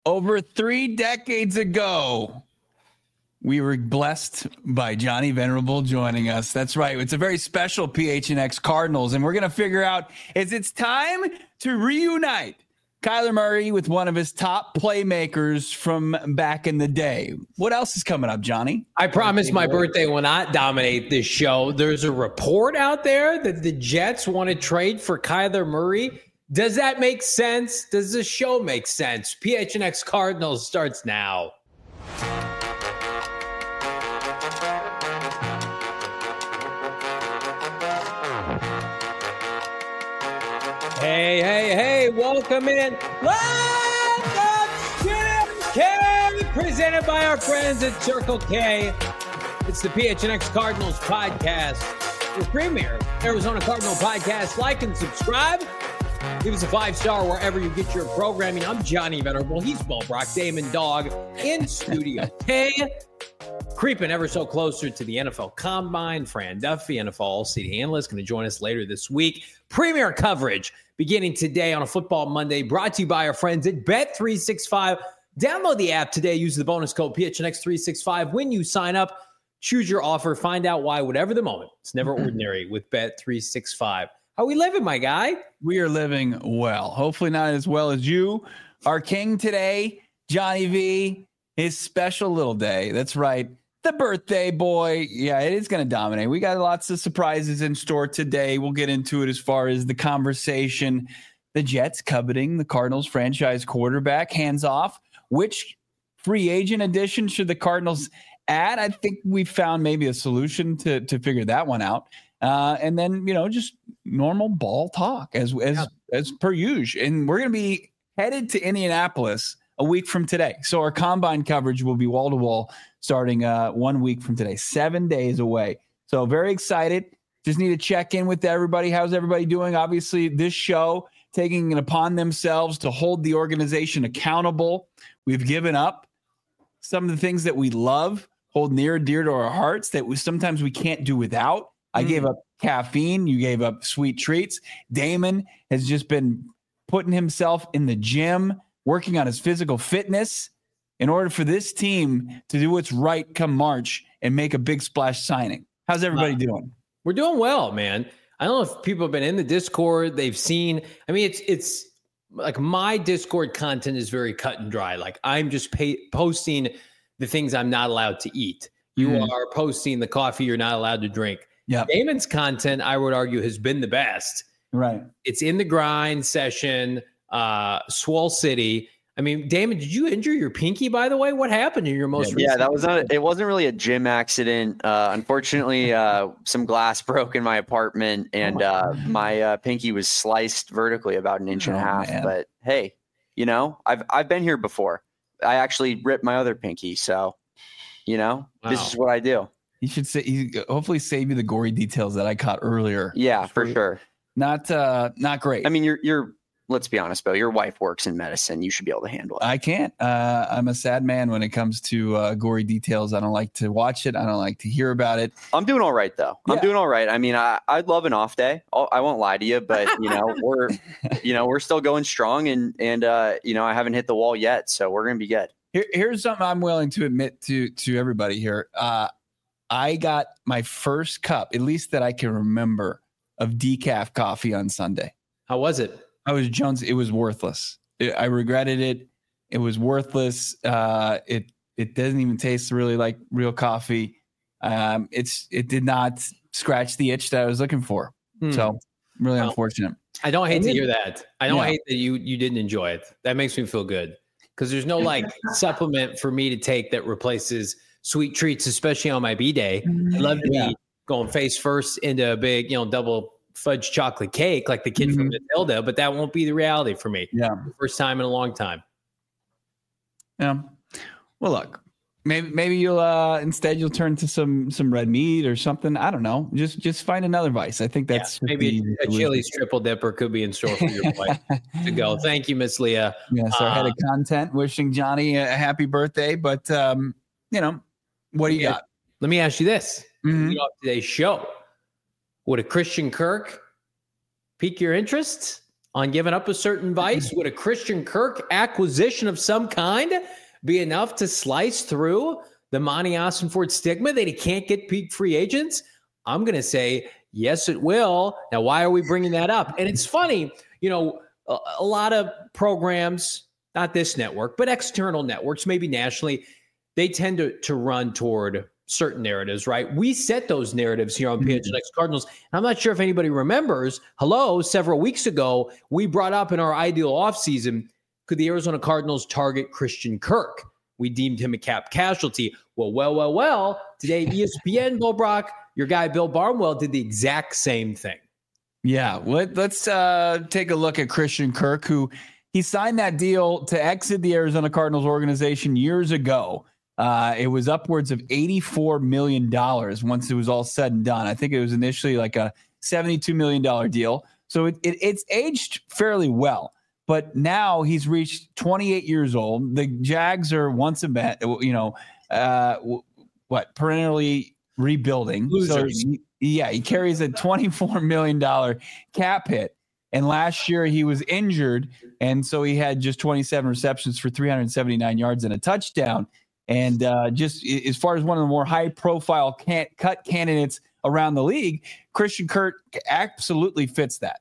Over 3 decades ago, we were blessed by Johnny Venerable joining us. That's right. It's a very special PHNX Cardinals, and we're going to figure out is it's time to reunite Kyler Murray with one of his top playmakers from back in the day. What else is coming up, Johnny? I promise my birthday will not dominate this show. There's a report out there that the Jets want to trade for Kyler Murray. Does that make sense? Does the show make sense? PHNX Cardinals starts now. Hey, welcome in. Welcome to K, presented by our friends at Circle K. It's the PHNX Cardinals podcast, your premier Arizona Cardinal podcast. Like and subscribe. Give us a 5-star wherever you get your programming. I'm Johnny Venerable. He's Bo Brock, Damon Dog in Studio K. Creeping ever so closer to the NFL Combine. Fran Duffy, NFL All-City Analyst, going to join us later this week. Premier coverage beginning today on a Football Monday, brought to you by our friends at Bet365. Download the app today. Use the bonus code PHNX365 when you sign up. Choose your offer. Find out why, whatever the moment. It's never ordinary with Bet365. How we living, my guy? We are living well. Hopefully not as well as you. Our king today, Johnny V, his special little day. That's right. The birthday boy. Yeah, it is going to dominate. We got lots of surprises in store today. We'll get into it as far as the conversation. The Jets coveting the Cardinals franchise quarterback. Hands off. Which free agent addition should the Cardinals add? I think we found maybe a solution to figure that one out. And then, just normal ball talk as per usual. And we're going to be headed to Indianapolis a week from today. So our combine coverage will be wall to wall starting 1 week from today, 7 days away. So very excited. Just need to check in with everybody. How's everybody doing? Obviously, this show taking it upon themselves to hold the organization accountable. We've given up some of the things that we love, hold near and dear to our hearts that sometimes we can't do without. I gave up caffeine. You gave up sweet treats. Damon has just been putting himself in the gym, working on his physical fitness in order for this team to do what's right come March and make a big splash signing. How's everybody doing? We're doing well, man. I don't know if people have been in the Discord. They've seen, it's like my Discord content is very cut and dry. Like I'm just posting the things I'm not allowed to eat. You are posting the coffee you're not allowed to drink. Yeah, Damon's content, I would argue, has been the best. Right. It's in the grind session, Swole City. I mean, Damon, did you injure your pinky, by the way? What happened in your most recent? Yeah, it wasn't really a gym accident. Unfortunately, some glass broke in my apartment and my pinky was sliced vertically about an inch and a half. Man. But hey, I've been here before. I actually ripped my other pinky. So, This is what I do. You should hopefully save you the gory details that I caught earlier. Yeah, for sure. Not great. I mean, you're let's be honest, Bill, your wife works in medicine. You should be able to handle it. I can't. I'm a sad man when it comes to gory details. I don't like to watch it. I don't like to hear about it. I'm doing all right, though. Yeah. I'm doing all right. I mean, I'd love an off day. I won't lie to you, but we're still going strong and I haven't hit the wall yet. So we're going to be good. Here's something I'm willing to admit to everybody here. I got my first cup, at least that I can remember, of decaf coffee on Sunday. How was it? I was Jones. It was worthless. I regretted it. It was worthless. It doesn't even taste really like real coffee. It did not scratch the itch that I was looking for. So really unfortunate. I don't hate to hear that. I don't hate that you didn't enjoy it. That makes me feel good because there's no supplement for me to take that replaces sweet treats, especially on my B-day. I love to be going face first into a big, double fudge chocolate cake like the kid from Matilda, but that won't be the reality for me. Yeah. First time in a long time. Yeah. Well, look, maybe you'll instead you'll turn to some red meat or something. I don't know. Just find another vice. I think that's maybe a Chili's triple dipper could be in store for your wife to go. Thank you, Miss Leah. Yes, our head of content wishing Johnny a happy birthday, but what do you got? Let me ask you this. Lead off today's show. Would a Christian Kirk pique your interest? on giving up a certain vice? Would a Christian Kirk acquisition of some kind be enough to slice through the Monty Ossenfort stigma that he can't get peak free agents? I'm going to say, yes, it will. Now, why are we bringing that up? And it's funny, a lot of programs, not this network, but external networks, maybe nationally, they tend to run toward certain narratives, right? We set those narratives here on PHNX Cardinals. And I'm not sure if anybody remembers, several weeks ago, we brought up in our ideal offseason, could the Arizona Cardinals target Christian Kirk? We deemed him a cap casualty. Well, today ESPN, Bo Brock, your guy Bill Barnwell did the exact same thing. Yeah, let's take a look at Christian Kirk, who he signed that deal to exit the Arizona Cardinals organization years ago. It was upwards of $84 million once it was all said and done. I think it was initially like a $72 million deal. So it's aged fairly well. But now he's reached 28 years old. The Jags are once again, perennially rebuilding. Losers. So he carries a $24 million cap hit. And last year he was injured. And so he had just 27 receptions for 379 yards and a touchdown. And just as far as one of the more high-profile cut candidates around the league, Christian Kirk absolutely fits that.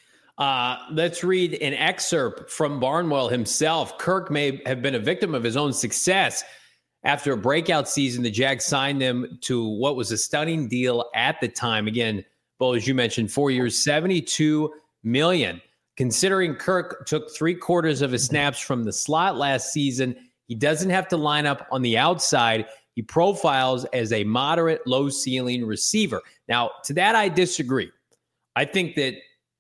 Let's read an excerpt from Barnwell himself. Kirk may have been a victim of his own success. After a breakout season, the Jags signed him to what was a stunning deal at the time. Again, Bo, as you mentioned, 4 years, $72 million. Considering Kirk took 3/4 of his snaps from the slot last season, he doesn't have to line up on the outside. He profiles as a moderate, low-ceiling receiver. Now, to that, I disagree. I think that,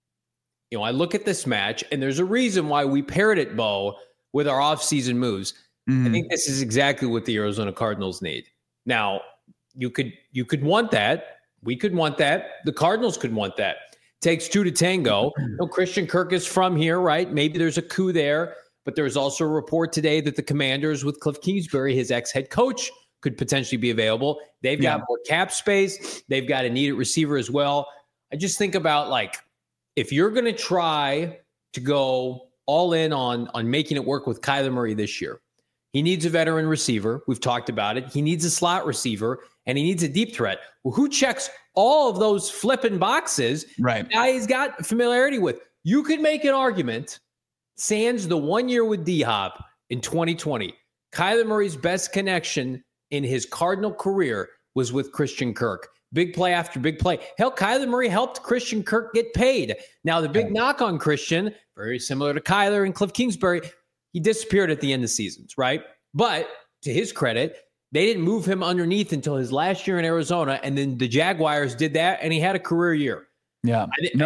I look at this match, and there's a reason why we paired it, Bo, with our offseason moves. I think this is exactly what the Arizona Cardinals need. Now, you could want that. We could want that. The Cardinals could want that. Takes two to tango. Christian Kirk is from here, right? Maybe there's a coup there. But there's also a report today that the Commanders with Cliff Kingsbury, his ex-head coach, could potentially be available. They've got more cap space. They've got a needed receiver as well. I just think about, if you're going to try to go all in on making it work with Kyler Murray this year, he needs a veteran receiver. We've talked about it. He needs a slot receiver, and he needs a deep threat. Well, who checks all of those flipping boxes? Right. Now he's got familiarity with. You could make an argument, sans the 1 year with D-Hop in 2020, Kyler Murray's best connection in his Cardinal career was with Christian Kirk. Big play after big play. Hell, Kyler Murray helped Christian Kirk get paid. Now, the big knock on Christian, very similar to Kyler and Cliff Kingsbury, he disappeared at the end of seasons, right? But to his credit, they didn't move him underneath until his last year in Arizona, and then the Jaguars did that, and he had a career year. Yeah.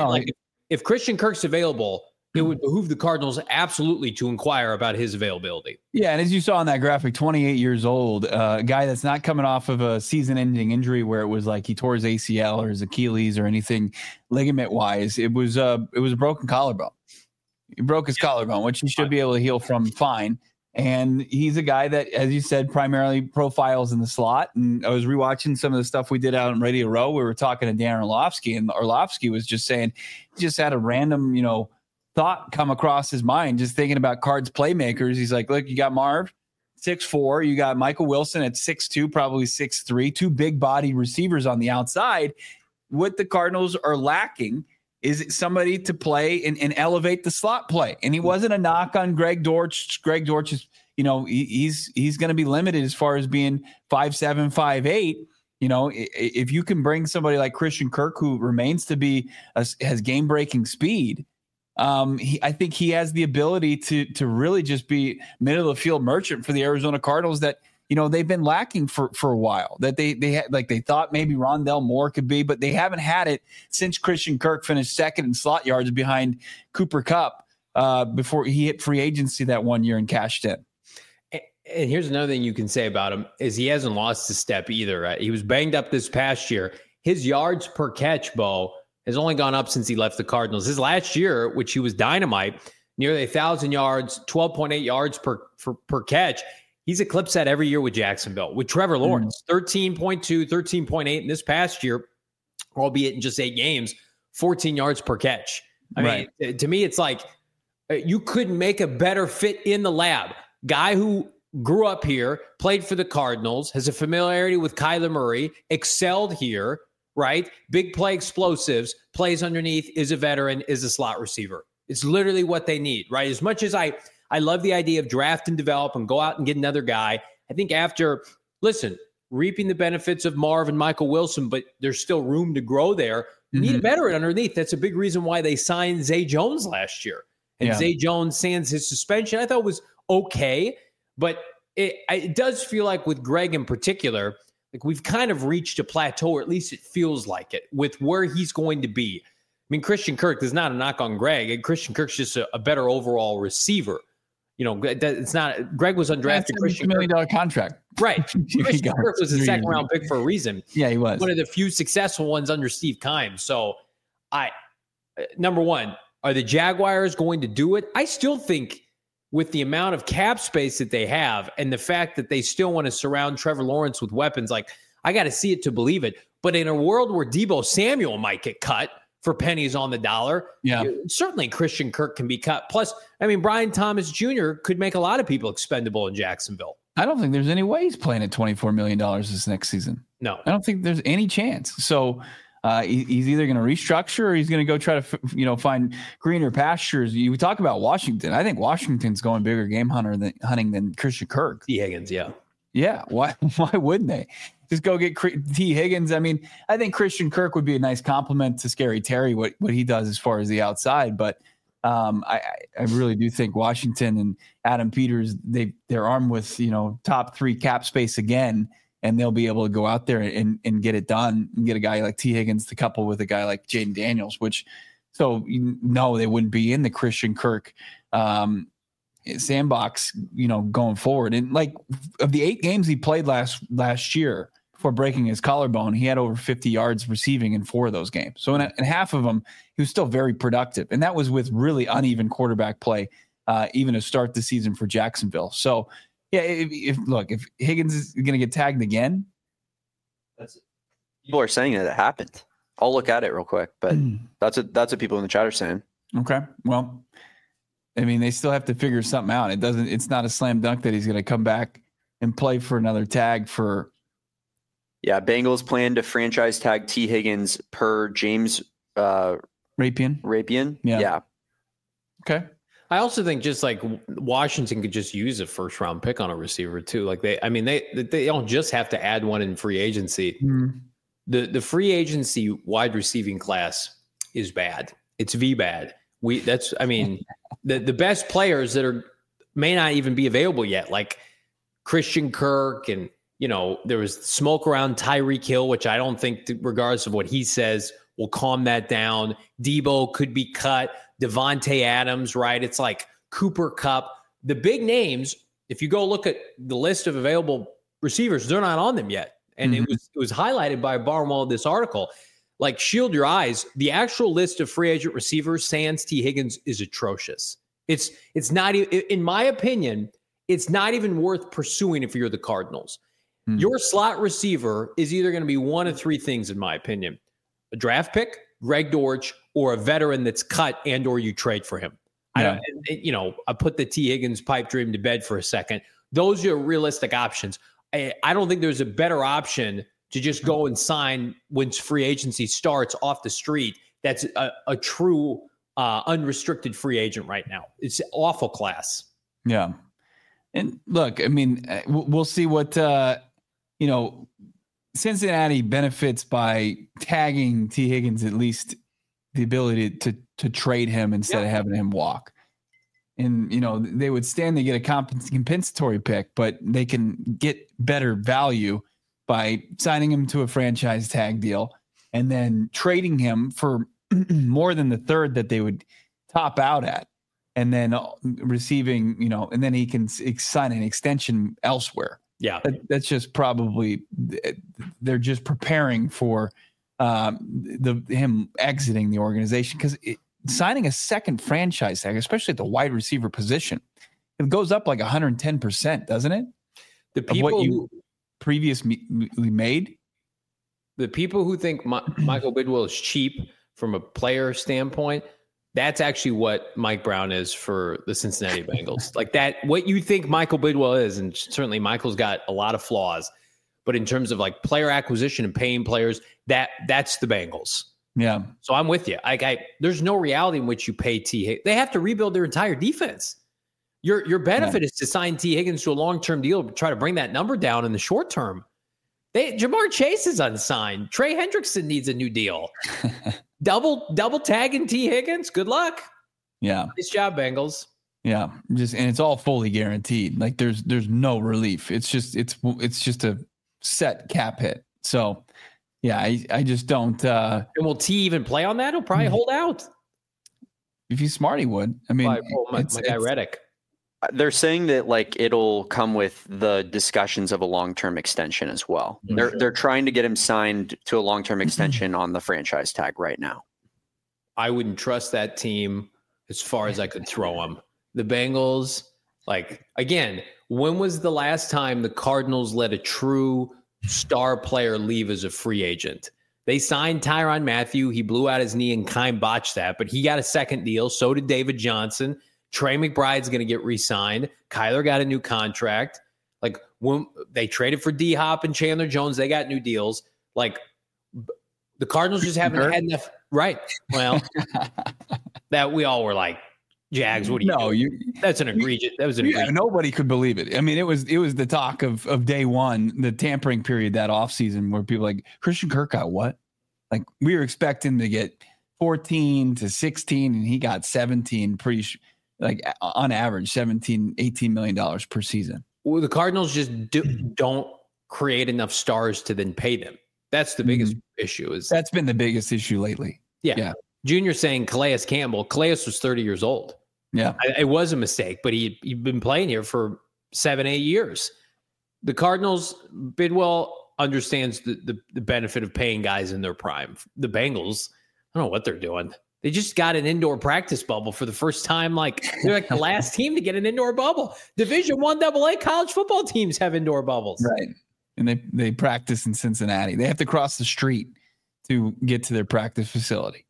If Christian Kirk's available, it would behoove the Cardinals absolutely to inquire about his availability. Yeah, and as you saw in that graphic, 28 years old, a guy that's not coming off of a season-ending injury where it was like he tore his ACL or his Achilles or anything ligament-wise. It was a broken collarbone. He broke his collarbone, which he should be able to heal from fine. And he's a guy that, as you said, primarily profiles in the slot. And I was rewatching some of the stuff we did out on Radio Row. We were talking to Dan Orlovsky, and Orlovsky was just saying he just had a random, thought come across his mind, just thinking about Cards playmakers. He's like, look, you got Marv, 6'4", you got Michael Wilson at 6'2", probably 6'3", two big body receivers on the outside. What the Cardinals are lacking is somebody to play and elevate the slot play. And he wasn't a knock on Greg Dortch. Greg Dortch is, he's going to be limited as far as being 5'7", 5'8". If you can bring somebody like Christian Kirk, who remains to be has game-breaking speed, I think he has the ability to really just be middle of the field merchant for the Arizona Cardinals that, they've been lacking for a while, that they had, they thought maybe Rondell Moore could be, but they haven't had it since Christian Kirk finished second in slot yards behind Cooper Kupp before he hit free agency that 1 year and cashed in. And here's another thing you can say about him is he hasn't lost a step either. Right? He was banged up this past year. His yards per catch, Bo, has only gone up since he left the Cardinals. His last year, which he was dynamite, nearly 1,000 yards, 12.8 yards per catch. He's eclipsed that every year with Jacksonville. With Trevor Lawrence, 13.2, 13.8 in this past year, albeit in just 8 games, 14 yards per catch. I mean, to me, it's like you couldn't make a better fit in the lab. Guy who grew up here, played for the Cardinals, has a familiarity with Kyler Murray, excelled here, right? Big play explosives, plays underneath, is a veteran, is a slot receiver. It's literally what they need, right? As much as I love the idea of draft and develop and go out and get another guy, I think after, reaping the benefits of Marv and Michael Wilson, but there's still room to grow there. You need a veteran underneath. That's a big reason why they signed Zay Jones last year. And Zay Jones, sans his suspension, I thought was okay. But it does feel like with Greg in particular, like we've kind of reached a plateau, or at least it feels like it, with where he's going to be. I mean, Christian Kirk is not a knock on Greg. And Christian Kirk's just a better overall receiver. You know, it's not. Greg was undrafted. Christian $1 million contract. Right. Christian Kirk was a second-round pick for a reason. Yeah, he was. One of the few successful ones under Steve Keim. So, number one, are the Jaguars going to do it? I still think with the amount of cap space that they have and the fact that they still want to surround Trevor Lawrence with weapons, like, I got to see it to believe it. But in a world where Deebo Samuel might get cut for pennies on the dollar, certainly Christian Kirk can be cut. Plus, I mean, Brian Thomas Jr. could make a lot of people expendable in Jacksonville. I don't think there's any way he's playing at $24 million this next season. No. I don't think there's any chance. So he's either going to restructure or he's going to go try to, find greener pastures. You talk about Washington. I think Washington's going bigger game hunting than Christian Kirk. T. Higgins, yeah. Yeah. Why wouldn't they? Just go get T. Higgins. I mean, I think Christian Kirk would be a nice compliment to Scary Terry, what he does as far as the outside. But I really do think Washington and Adam Peters, they're armed with, top 3 cap space again, and they'll be able to go out there and get it done and get a guy like T. Higgins to couple with a guy like Jaden Daniels, they wouldn't be in the Christian Kirk sandbox, going forward. And like of the 8 games he played last year before breaking his collarbone, he had over 50 yards receiving in 4 of those games. So in half of them, he was still very productive. And that was with really uneven quarterback play, even to start the season for Jacksonville. So yeah, if Higgins is going to get tagged again, people are saying that it happened. I'll look at it real quick, but that's what people in the chat are saying. Okay. Well, I mean, they still have to figure something out. It's not a slam dunk that he's going to come back and play for another tag for. Yeah. Bengals plan to franchise tag T. Higgins per James Rapian. Yeah. Okay. I also think just like Washington could just use a first round pick on a receiver too. Like they don't just have to add one in free agency. Mm-hmm. The free agency wide receiving class is bad. It's bad. The best players that may not even be available yet, like Christian Kirk, and there was smoke around Tyreek Hill, which I don't think, regardless of what he says, will calm that down. Debo could be cut. Devontae Adams, right? It's like Cooper Kupp. The big names, if you go look at the list of available receivers, they're not on them yet. And it was highlighted by Barnwell in this article. Like, shield your eyes. The actual list of free agent receivers, sans T. Higgins, is atrocious. It's not, in my opinion, it's not even worth pursuing if you're the Cardinals. Your slot receiver is either going to be one of 3 things, in my opinion: a draft pick, Greg Dortch, or a veteran that's cut and or you trade for him. Yeah. I put the T. Higgins pipe dream to bed for a second. Those are realistic options. I don't think there's a better option to just go and sign when free agency starts off the street. That's a true unrestricted free agent right now. It's awful class. Yeah. And look, I mean, we'll see what, Cincinnati benefits by tagging T. Higgins, at least the ability to trade him instead of having him walk. And, they would stand to get a compensatory pick, but they can get better value by signing him to a franchise tag deal and then trading him for more than the third that they would top out at, and then receiving, and then he can sign an extension elsewhere. Yeah. That's just probably, they're just preparing for him exiting the organization, because signing a second franchise tag, especially at the wide receiver position, it goes up like 110%, doesn't it? The people of what you previously made. The people who think Michael Bidwell is cheap from a player standpoint, That's actually what Mike Brown is for the Cincinnati Bengals. Like that, what you think Michael Bidwell is, and certainly Michael's got a lot of flaws, but in terms of like player acquisition and paying players, that's the Bengals. Yeah. So I'm with you. There's no reality in which you pay T. Higgins. They have to rebuild their entire defense. Your benefit is to sign T. Higgins to a long-term deal to try to bring that number down in the short term. Jamar Chase is unsigned. Trey Hendrickson needs a new deal. Double tagging T. Higgins. Good luck. Yeah. Nice job, Bengals. Yeah. And it's all fully guaranteed. Like there's no relief. It's just a set cap hit. So yeah, I just don't. And will T even play on that? He'll probably hold out. If he's smart, he would. I mean, my guy Reddick. They're saying that like it'll come with the discussions of a long-term extension as well. Mm-hmm. They're trying to get him signed to a long-term extension on the franchise tag right now. I wouldn't trust that team as far as I could throw them. The Bengals, like again, when was the last time the Cardinals let a true star player leave as a free agent? They signed Tyrann Mathieu. He blew out his knee and kind botched that, but he got a second deal. So did David Johnson. Trey McBride's going to get re-signed. Kyler got a new contract. Like when they traded for D-Hop and Chandler Jones, they got new deals. Like the Cardinals just haven't had enough. Right. Well, that we all were like, Jags, what do you do? That's an egregious. That was an egregious. Nobody could believe it. I mean, it was the talk of day one, the tampering period, that offseason where people like Christian Kirk got what? Like we were expecting to get 14 to 16 and he got 17 like on average, $18 million per season. Well, the Cardinals just don't create enough stars to then pay them. That's the biggest issue. That's been the biggest issue lately. Yeah. Junior saying Calais Campbell. Calais was 30 years old. Yeah. It was a mistake, but he'd been playing here for 7-8 years. The Cardinals, Bidwell understands the benefit of paying guys in their prime. The Bengals, I don't know what they're doing. They just got an indoor practice bubble for the first time. Like they're like the last team to get an indoor bubble. Division I AA college football teams have indoor bubbles. Right. And they practice in Cincinnati. They have to cross the street to get to their practice facility.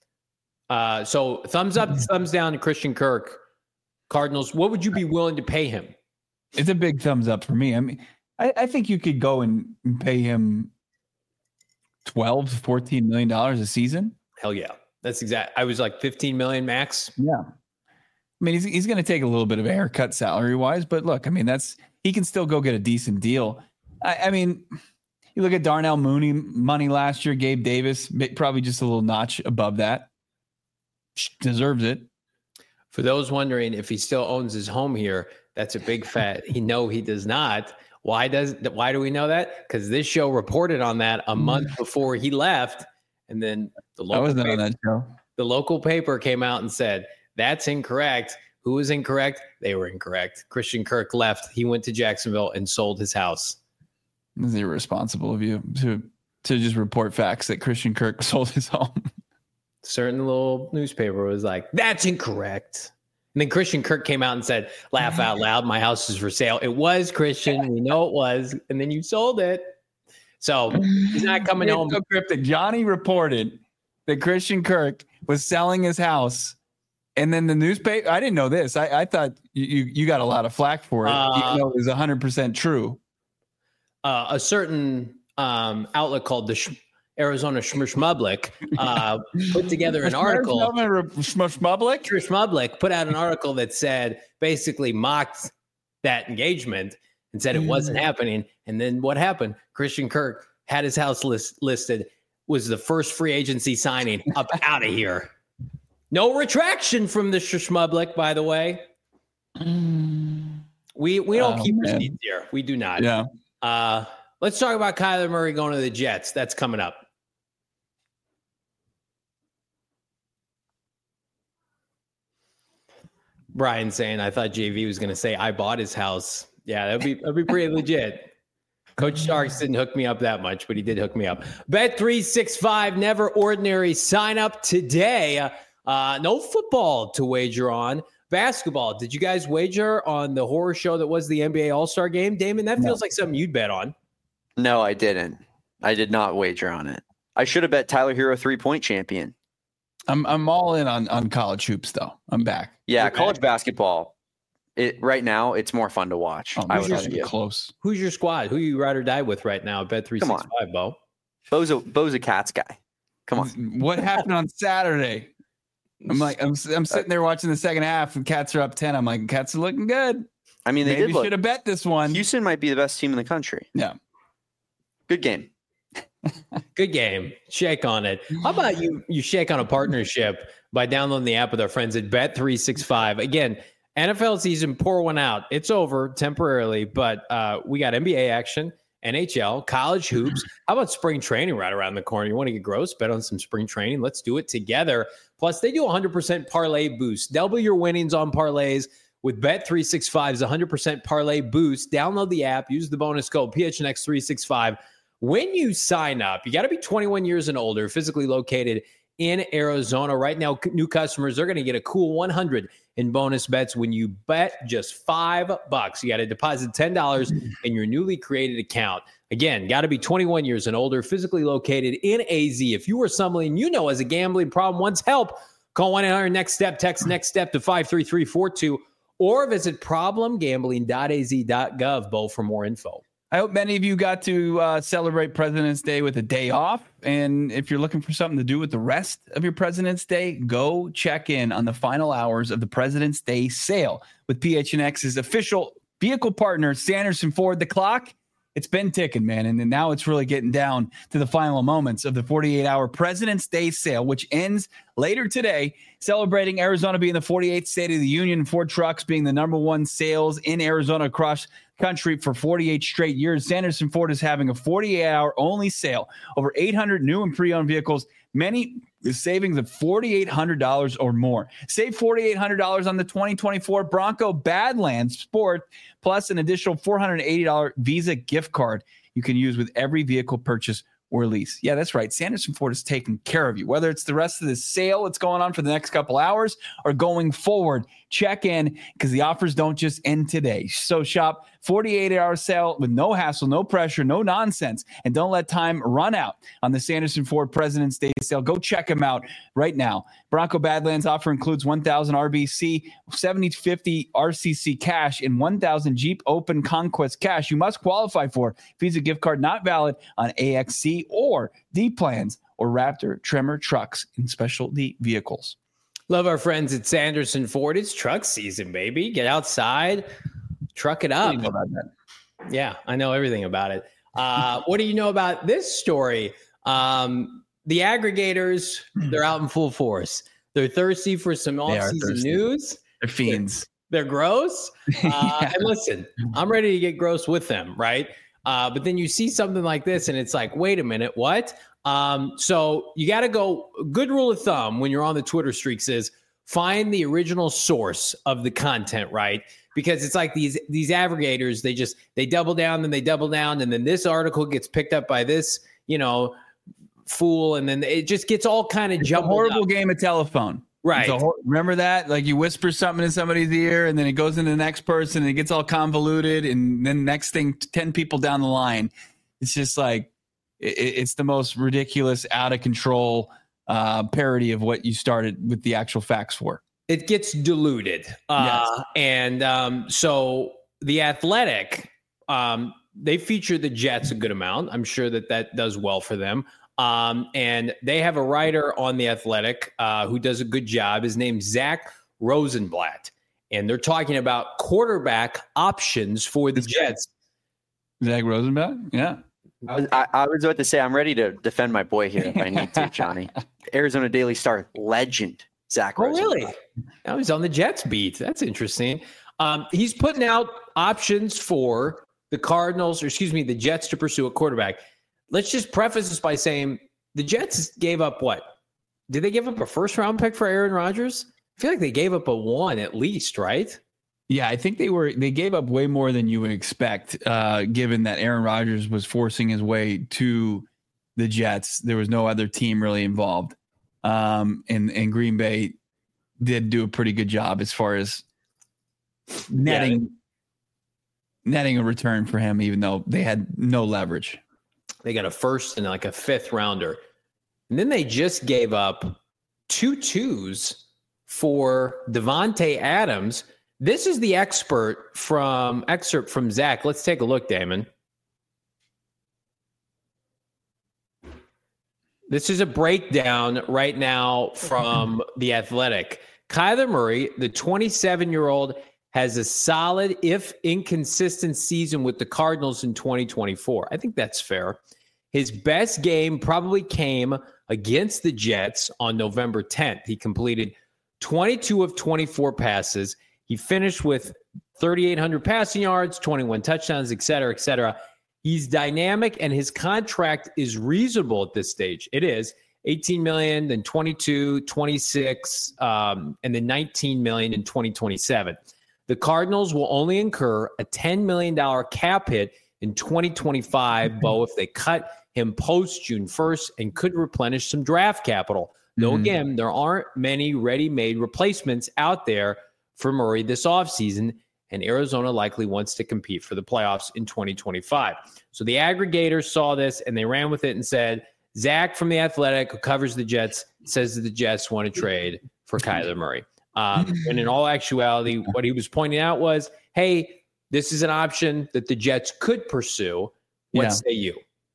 So thumbs up, thumbs down to Christian Kirk. Cardinals, what would you be willing to pay him? It's a big thumbs up for me. I mean, I think you could go and pay him $12 to $14 million a season. Hell yeah. That's exact. I was like 15 million max. Yeah. I mean, he's going to take a little bit of a haircut salary wise, but look, I mean, he can still go get a decent deal. I mean, you look at Darnell Mooney money last year, Gabe Davis, probably just a little notch above that. Deserves it. For those wondering if he still owns his home here, that's a big fat. No, he does not. Why do we know that? Because this show reported on that a month before he left. And then the local paper came out and said, that's incorrect. Who was incorrect? They were incorrect. Christian Kirk left. He went to Jacksonville and sold his house. It's irresponsible of you to just report facts that Christian Kirk sold his home. Certain little newspaper was like, that's incorrect. And then Christian Kirk came out and said, laugh out loud, my house is for sale. It was, Christian. We know it was. And then you sold it. So he's not coming home. So cryptic. Johnny reported that Christian Kirk was selling his house. And then the newspaper, I didn't know this. I thought you got a lot of flack for it, even though it was 100% true. A certain outlet called the Arizona Schmublick put together an article. Schmublick put out an article that said, basically mocked that engagement and said it wasn't happening. And then what happened? Christian Kirk had his house listed, was the first free agency signing up out of here. No retraction from the Schmublick, by the way. We don't keep receipts here. We do not. Yeah. Let's talk about Kyler Murray going to the Jets. That's coming up. Brian saying, I thought JV was going to say, I bought his house. Yeah, that'd be pretty legit. Coach Starks didn't hook me up that much, but he did hook me up. Bet365, never ordinary. Sign up today. No football to wager on. Basketball. Did you guys wager on the horror show that was the NBA All-Star game? Damon, that feels like something you'd bet on. No, I didn't. I did not wager on it. I should have bet Tyler Hero 3-point champion. I'm all in on college hoops though. I'm back. Yeah, college basketball. Right now, it's more fun to watch. I would argue. Close. Who's your squad? Who you ride or die with right now? Bet365, Bo. Bo's a Cats guy. Come on. What happened on Saturday? I'm sitting there watching the second half, and Cats are up 10. I'm like, Cats are looking good. I mean, they should have bet this one. Houston might be the best team in the country. Yeah. Good game. Good game. Shake on it. How about you shake on a partnership by downloading the app with our friends at Bet365? Again, NFL season, pour one out. It's over temporarily, but we got NBA action, NHL, college hoops. How about spring training right around the corner? You want to get gross? Bet on some spring training. Let's do it together. Plus, they do 100% parlay boost. Double your winnings on parlays with Bet365's 100% parlay boost. Download the app. Use the bonus code PHNX365. When you sign up, you got to be 21 years and older, physically located in Arizona. Right now, new customers are going to get a cool 100 in bonus bets when you bet just $5. You got to deposit $10 in your newly created account. Again, got to be 21 years and older, physically located in AZ. If you or someone you know has a gambling problem, wants help, call 1-800-NEXT-STEP, text NEXT STEP to 53342, or visit problemgambling.az.gov, Bo, for more info. I hope many of you got to celebrate President's Day with a day off. And if you're looking for something to do with the rest of your President's Day, go check in on the final hours of the President's Day sale with PHNX's official vehicle partner, Sanderson Ford. The clock, it's been ticking, man. And now it's really getting down to the final moments of the 48-hour President's Day sale, which ends later today, celebrating Arizona being the 48th state of the union, Ford trucks being the number one sales in Arizona across country for 48 straight years. Sanderson Ford is having a 48-hour only sale. Over 800 new and pre-owned vehicles, many savings of $4,800 or more. Save $4,800 on the 2024 Bronco Badlands Sport, plus an additional $480 Visa gift card you can use with every vehicle purchase or lease. Yeah, that's right. Sanderson Ford is taking care of you. Whether it's the rest of the sale that's going on for the next couple hours or going forward, check in because the offers don't just end today. So shop 48-hour sale with no hassle, no pressure, no nonsense, and don't let time run out on the Sanderson Ford President's Day sale. Go check them out right now. Bronco Badlands offer includes 1,000 RBC, 70/50 RCC cash, and 1,000 Jeep Open Conquest cash. You must qualify for Visa gift card not valid on AXC or D plans or Raptor Tremor trucks in specialty vehicles. Love our friends at Sanderson Ford. It's truck season, baby. Get outside, truck it up. What do you know about that? Yeah, I know everything about it. What do you know about this story? The aggregators, they're out in full force. They're thirsty for some off-season news. They're fiends. They're gross. And listen, I'm ready to get gross with them, right? But then you see something like this and it's like, wait a minute, what? So you got to go, good rule of thumb when you're on the Twitter streaks is find the original source of the content, right? Because it's like these aggregators, they double down, then they double down, and then this article gets picked up by this, fool, and then it just gets all kind of jumbled. A horrible game of telephone. Right. Remember that? Like you whisper something in somebody's ear and then it goes into the next person and it gets all convoluted. And then next thing, 10 people down the line, it's just like, it's the most ridiculous, out of control parody of what you started with the actual facts for. It gets diluted. Yes. And so The Athletic, they feature the Jets a good amount. I'm sure that does well for them. And they have a writer on The Athletic who does a good job. His name's Zach Rosenblatt. And they're talking about quarterback options for the Jets. Zach Rosenblatt? Yeah. I was about to say, I'm ready to defend my boy here if I need to, Johnny. Arizona Daily Star legend, Zach Rosenblatt. Oh, really? Now he's on the Jets beat. That's interesting. He's putting out options for the Jets to pursue a quarterback. Let's just preface this by saying the Jets gave up what? Did they give up a first-round pick for Aaron Rodgers? I feel like they gave up a one at least, right? Yeah, I think they gave up way more than you would expect, given that Aaron Rodgers was forcing his way to the Jets. There was no other team really involved. And Green Bay did do a pretty good job as far as netting a return for him, even though they had no leverage. They got a first and like a fifth rounder. And then they just gave up 2 2s for Davante Adams. This is the excerpt from Zach. Let's take a look, Damon. This is a breakdown right now from The Athletic. Kyler Murray, the 27-year-old, has a solid, if inconsistent, season with the Cardinals in 2024. I think that's fair. His best game probably came against the Jets on November 10th. He completed 22 of 24 passes. He finished with 3,800 passing yards, 21 touchdowns, et cetera, et cetera. He's dynamic, and his contract is reasonable at this stage. It is $18 million, then 22, 26, and then $19 million in 2027. The Cardinals will only incur a $10 million cap hit in 2025, Bo, if they cut him post June 1st, and could replenish some draft capital. Though, again, there aren't many ready-made replacements out there for Murray this offseason, and Arizona likely wants to compete for the playoffs in 2025. So the aggregators saw this, and they ran with it and said, Zach from The Athletic, who covers the Jets, says that the Jets want to trade for Kyler Murray. And in all actuality, what he was pointing out was, hey, this is an option that the Jets could pursue. What say you?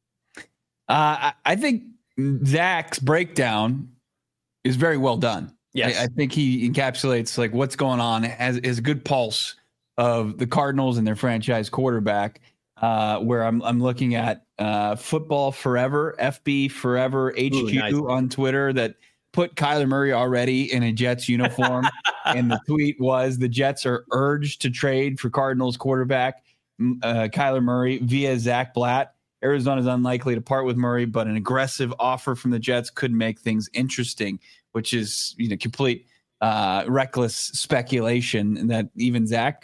I think Zach's breakdown is very well done. Yes. I think he encapsulates like what's going on, has a good pulse of the Cardinals and their franchise quarterback, where I'm looking at Football Forever, FB Forever HQ nice. on Twitter that put Kyler Murray already in a Jets uniform. And the tweet was, the Jets are urged to trade for Cardinals quarterback Kyler Murray via Zach Blatt. Arizona is unlikely to part with Murray, but an aggressive offer from the Jets could make things interesting, which is, complete reckless speculation that even Zach,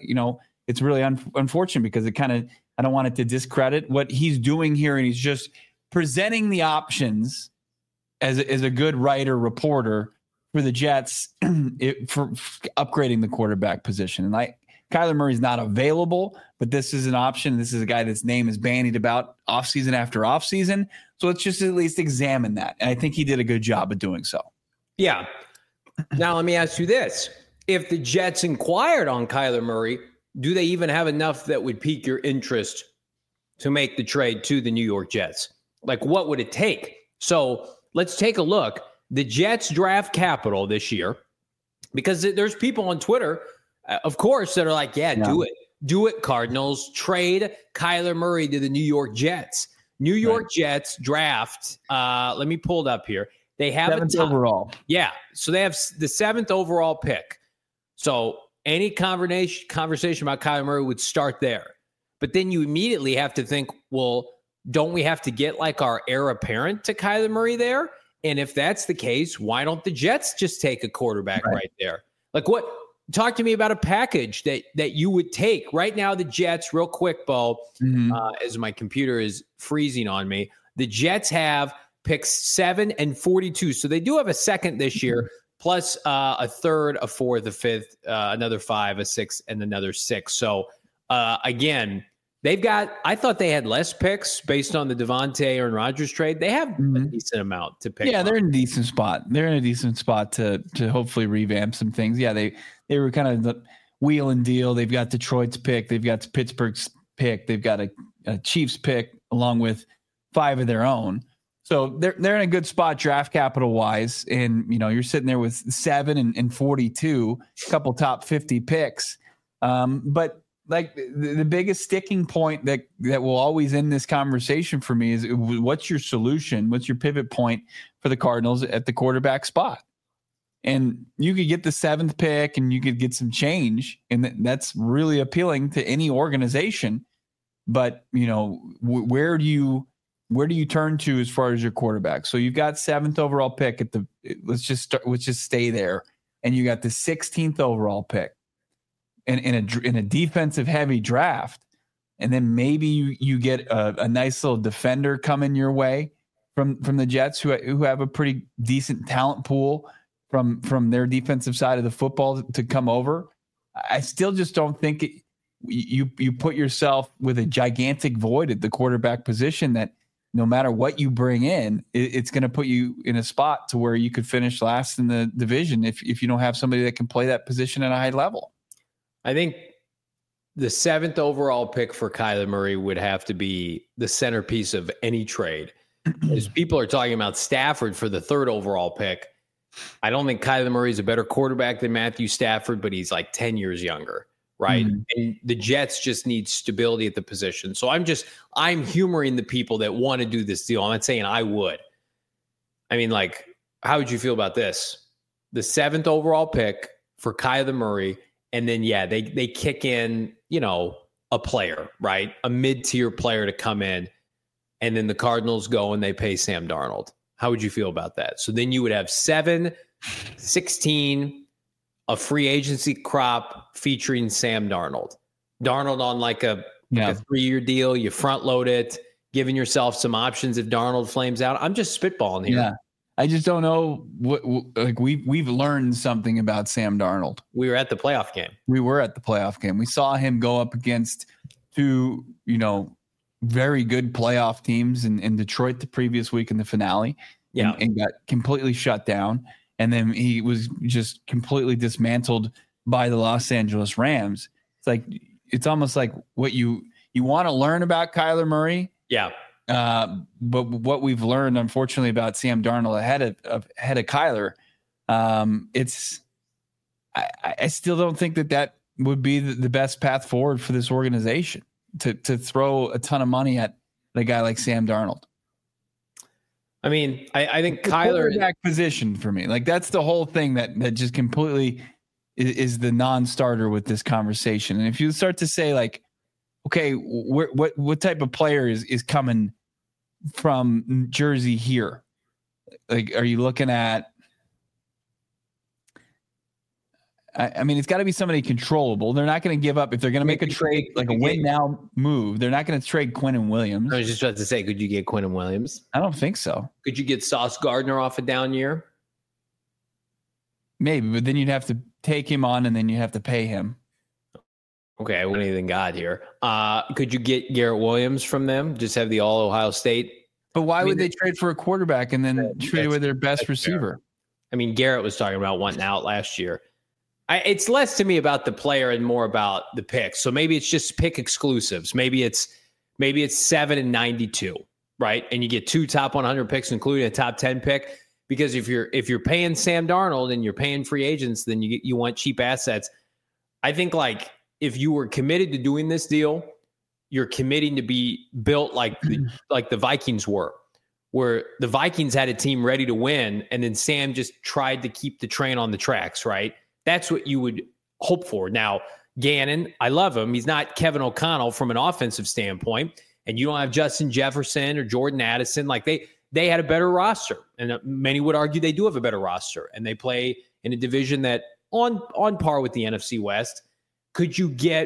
it's really unfortunate because it kind of, I don't want it to discredit what he's doing here. And he's just presenting the options as a good writer, reporter for the Jets for upgrading the quarterback position. And Kyler Murray's not available, but this is an option. This is a guy that's name is bandied about offseason after offseason. So let's just at least examine that. And I think he did a good job of doing so. Yeah. Now, let me ask you this. If the Jets inquired on Kyler Murray, do they even have enough that would pique your interest to make the trade to the New York Jets? Like, what would it take? So let's take a look. The Jets draft capital this year, because there's people on Twitter, of course, that are like, do it. Do it, Cardinals. Trade Kyler Murray to the New York Jets. New York Jets draft, let me pull it up here. They have 7th overall. Yeah. So they have the 7th overall pick. So any conversation about Kyler Murray would start there. But then you immediately have to think, well, don't we have to get like our heir apparent to Kyler Murray there? And if that's the case, why don't the Jets just take a quarterback right there? Like what? Talk to me about a package that you would take right now. The Jets, real quick, Bo, as my computer is freezing on me. The Jets have picks 7 and 42. So they do have a second this year, plus a third, a fourth, a fifth, another 5, a 6, and another 6. So again, I thought they had less picks based on the Davante Aaron Rodgers trade. They have a decent amount to pick. Yeah, they're in a decent spot. They're in a decent spot to hopefully revamp some things. Yeah, they were kind of the wheel and deal. They've got Detroit's pick. They've got Pittsburgh's pick. They've got a Chiefs pick along with 5 of their own. So they're in a good spot draft capital wise. And, you're sitting there with 7 and 42, a couple top 50 picks. But like the biggest sticking point that will always end this conversation for me is, what's your solution? What's your pivot point for the Cardinals at the quarterback spot? And you could get the 7th pick and you could get some change, and that's really appealing to any organization. But, where do you turn to as far as your quarterback? So you've got 7th overall pick let's just stay there. And you got the 16th overall pick in a defensive heavy draft. And then maybe you get a nice little defender coming your way from the Jets who have a pretty decent talent pool from their defensive side of the football to come over. I still just don't think you put yourself with a gigantic void at the quarterback position that no matter what you bring in, it's going to put you in a spot to where you could finish last in the division if you don't have somebody that can play that position at a high level. I think the 7th overall pick for Kyler Murray would have to be the centerpiece of any trade. As people are talking about Stafford for the 3rd overall pick, I don't think Kyler Murray is a better quarterback than Matthew Stafford, but he's like 10 years younger, right? Mm-hmm. And the Jets just need stability at the position. So I'm humoring the people that want to do this deal. I'm not saying I would. I mean, like, how would you feel about this? The 7th overall pick for Kyler Murray, and then, they kick in, a player, right? A mid-tier player to come in, and then the Cardinals go and they pay Sam Darnold. How would you feel about that? So then you would have 7, 16, a free agency crop featuring Sam Darnold. Darnold on like a 3-year deal. You front load it, giving yourself some options if Darnold flames out. I'm just spitballing here. Yeah. I just don't know we've learned something about Sam Darnold. We were at the playoff game. We saw him go up against 2, very good playoff teams in Detroit the previous week in the finale. And got completely shut down. And then he was just completely dismantled by the Los Angeles Rams. It's almost like what you want to learn about Kyler Murray. Yeah. But what we've learned, unfortunately, about Sam Darnold ahead of Kyler, I still don't think that would be the best path forward for this organization to throw a ton of money at a guy like Sam Darnold. I mean, I think the Kyler quarterback position for me, like that's the whole thing that just completely is the non-starter with this conversation. And if you start to say like, okay, what type of player is coming from Jersey here? Like, are you looking at? I mean, it's got to be somebody controllable. They're not going to give up if they're going to make a trade, like a win now move. They're not going to trade Quinnen Williams. I was just about to say, could you get Quinnen Williams? I don't think so. Could you get Sauce Gardner off a down year? Maybe, but then you'd have to take him on, and then you have to pay him. Okay, what anything got here? Could you get Garrett Williams from them? Just have the all Ohio State. But why would they trade for a quarterback and then trade with their best receiver? Fair. I mean, Garrett was talking about wanting out last year. It's less to me about the player and more about the picks. So maybe it's just pick exclusives. Maybe it's 7 and 92, right? And you get 2 top 100 picks, including a top 10 pick. Because if you're paying Sam Darnold and you're paying free agents, then you want cheap assets. I think like if you were committed to doing this deal, you're committing to be built like the Vikings were, where the Vikings had a team ready to win, and then Sam just tried to keep the train on the tracks, right? That's what you would hope for. Now, Gannon, I love him. He's not Kevin O'Connell from an offensive standpoint, and you don't have Justin Jefferson or Jordan Addison. Like they had a better roster, and many would argue they do have a better roster, and they play in a division that on par with the NFC West. Could you get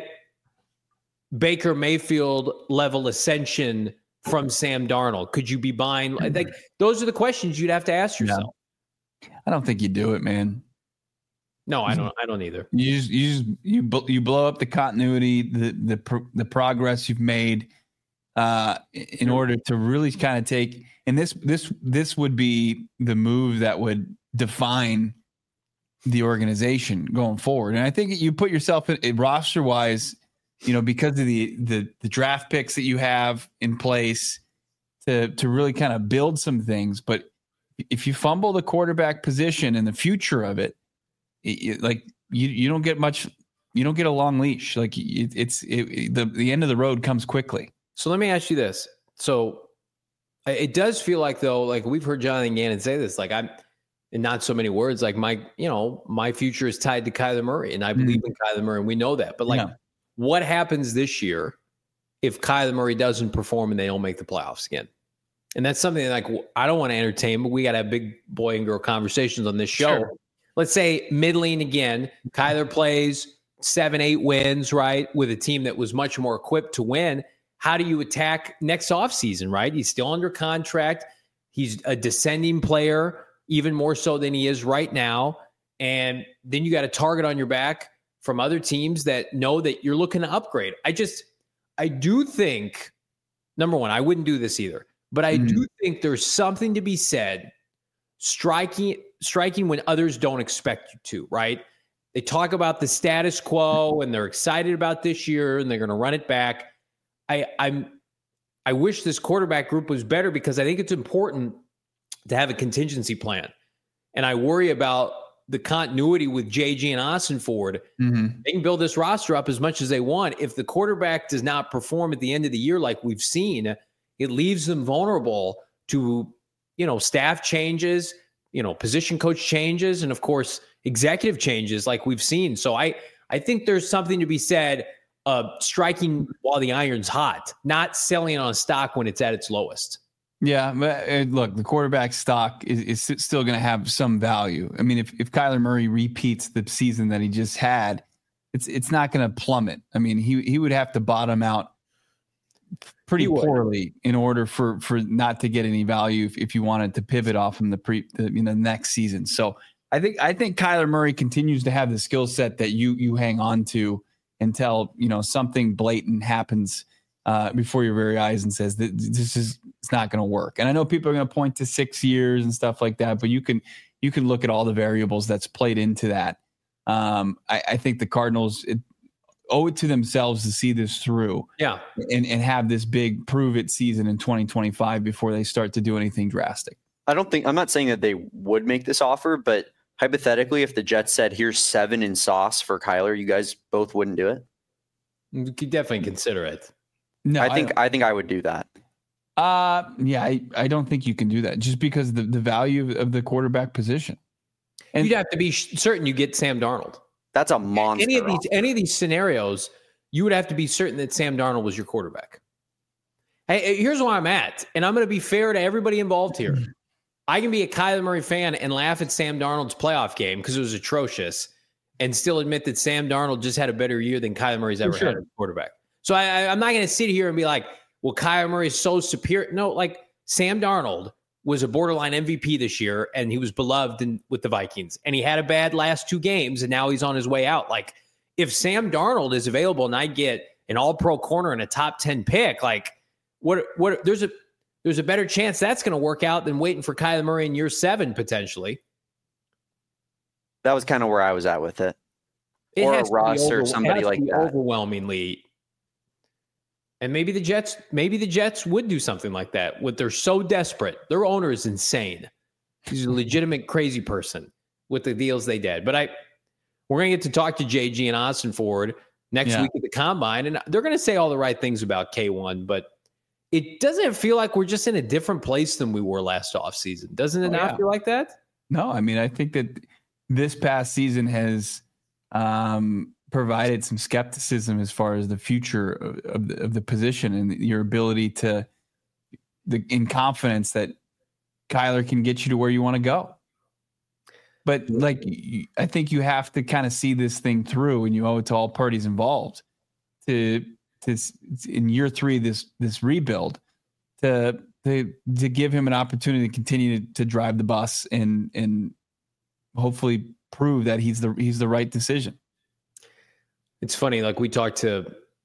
Baker Mayfield level ascension from Sam Darnold? Could you be buying? Like those are the questions you'd have to ask yourself. Yeah. I don't think you do it, man. No, I don't either. You blow up the continuity, the progress you've made in order to really kind of take. And this would be the move that would define the organization going forward. And I think you put yourself in roster wise, because of the draft picks that you have in place to really kind of build some things. But if you fumble the quarterback position and the future of it, you don't get much, you don't get a long leash. Like the end of the road comes quickly. So let me ask you this. So it does feel like though, like we've heard Jonathan Gannon say this, like I'm in not so many words, like my future is tied to Kyler Murray and I believe in Kyler Murray and we know that, but what happens this year if Kyler Murray doesn't perform and they don't make the playoffs again? And that's something like I don't want to entertain, but we got to have big boy and girl conversations on this show. Sure. Let's say middling again, Kyler plays 7-8 wins, right, with a team that was much more equipped to win. How do you attack next offseason, right? He's still under contract. He's a descending player, even more so than he is right now. And then you got a target on your back from other teams that know that you're looking to upgrade. I do think, number one, I wouldn't do this either. But I do think there's something to be said striking when others don't expect you to, right? They talk about the status quo and they're excited about this year and they're going to run it back. I wish this quarterback group was better because I think it's important to have a contingency plan. And I worry about the continuity with JG and Ossenford. They can build this roster up as much as they want. If the quarterback does not perform at the end of the year like we've seen, it leaves them vulnerable to, staff changes, position coach changes, and of course, executive changes like we've seen. So I think there's something to be said of striking while the iron's hot, not selling on stock when it's at its lowest. Yeah, but look, the quarterback stock is still going to have some value. I mean, if Kyler Murray repeats the season that he just had, it's not going to plummet. I mean, he would have to bottom out pretty poorly in order for not to get any value if you wanted to pivot off from the next season. So I think Kyler Murray continues to have the skill set that you hang on to until something blatant happens before your very eyes and says that it's not going to work. And I know people are going to point to 6 years and stuff like that, but you can look at all the variables that's played into that. I think the Cardinals owe it to themselves to see this through, and have this big prove it season in 2025 before they start to do anything drastic. I'm not saying that they would make this offer, but hypothetically, if the Jets said, here's 7 in sauce for Kyler, you guys both wouldn't do it? You could definitely consider it. No, I think I would do that. I don't think you can do that just because the value of the quarterback position. And you'd have to be certain you get Sam Darnold. That's a monster. Any of these scenarios, you would have to be certain that Sam Darnold was your quarterback. Hey, here's where I'm at, and I'm going to be fair to everybody involved here. I can be a Kyler Murray fan and laugh at Sam Darnold's playoff game because it was atrocious, and still admit that Sam Darnold just had a better year than Kyler Murray's ever had as a quarterback. So I'm not going to sit here and be like, well, Kyler Murray is so superior. No, like Sam Darnold was a borderline MVP this year, and he was beloved with the Vikings. And he had a bad last 2 games, and now he's on his way out. Like, if Sam Darnold is available and I get an all-pro corner and a top 10 pick, like, what? There's a better chance that's going to work out than waiting for Kyler Murray in year 7 potentially. That was kind of where I was at with it. Or a Russ or somebody like that. Overwhelmingly. And maybe the Jets would do something like that. They're so desperate. Their owner is insane. He's a legitimate crazy person with the deals they did. But we're going to get to talk to JG and Ossenford next week at the Combine, and they're going to say all the right things about K1, but it doesn't feel like we're just in a different place than we were last offseason. Doesn't it not feel like that? No, I mean, I think that this past season has provided some skepticism as far as the future of the position and your ability in confidence that Kyler can get you to where you want to go. But I think you have to kind of see this thing through, and you owe it to all parties involved to in year 3, this rebuild to give him an opportunity to continue to drive the bus and hopefully prove that he's the right decision. It's funny, like we talked to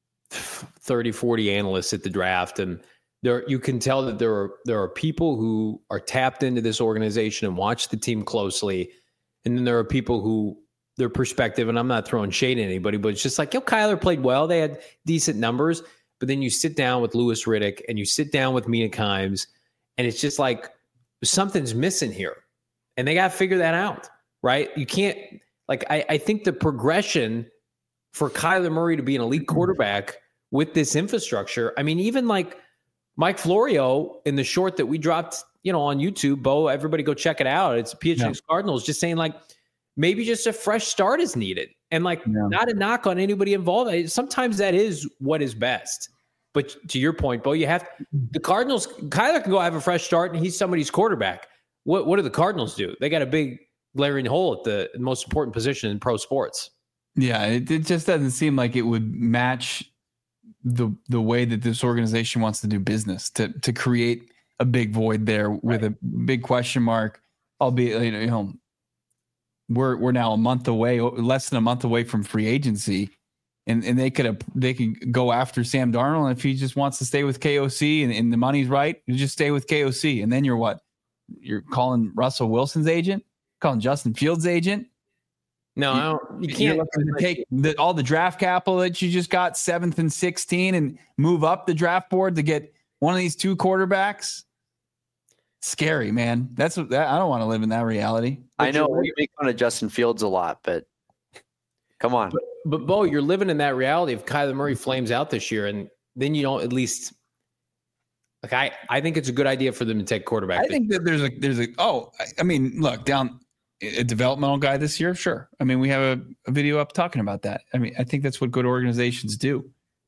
30, 40 analysts at the draft, and you can tell that there are people who are tapped into this organization and watch the team closely. And then there are people who their perspective, and I'm not throwing shade at anybody, but it's just like, Kyler played well. They had decent numbers. But then you sit down with Louis Riddick and you sit down with Mina Kimes, and it's just like something's missing here. And they got to figure that out, right? You can't, I think the progression for Kyler Murray to be an elite quarterback with this infrastructure, I mean, even like Mike Florio in the short that we dropped, on YouTube, Bo, everybody go check it out. It's PHNX Cardinals just saying maybe just a fresh start is needed, and not a knock on anybody involved. Sometimes that is what is best. But to your point, Bo, the Cardinals, Kyler can go have a fresh start and he's somebody's quarterback. What do the Cardinals do? They got a big glaring hole at the most important position in pro sports. Yeah, it just doesn't seem like it would match the way that this organization wants to do business to create a big void there with a big question mark. Albeit, we're now less than a month away from free agency, and they could go after Sam Darnold. And if he just wants to stay with KOC and the money's right, you just stay with KOC. And then you're what? You're calling Russell Wilson's agent, calling Justin Fields' agent. No, you can't take all the draft capital that you just got 7th and 16 and move up the draft board to get one of these 2 quarterbacks. Scary, man. I don't want to live in that reality. I know we make fun of Justin Fields a lot, but come on. But Bo, you're living in that reality if Kyler Murray flames out this year, and then you don't at least. Like I think it's a good idea for them to take quarterback. I think that look, down a developmental guy this year, sure. I mean, we have a video up talking about that. I mean, I think that's what good organizations do.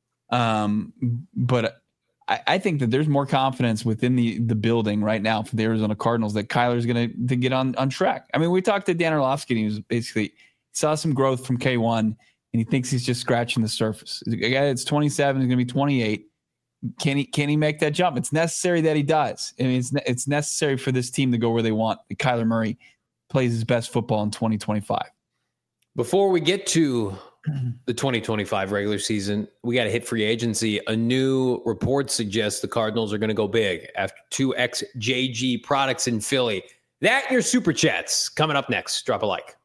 But I think that there's more confidence within the building right now for the Arizona Cardinals that Kyler's going to get on track. I mean, we talked to Dan Orlovsky, and he was basically saw some growth from K1, and he thinks he's just scratching the surface. A guy that's 27 is going to be 28. Can he make that jump? It's necessary that he does. I mean, it's necessary for this team to go where they want. Kyler Murray plays his best football in 2025. Before we get to the 2025 regular season, we got to hit free agency. A new report suggests the Cardinals are going to go big after 2 ex-JG products in Philly. That and your super chats coming up next. Drop a like.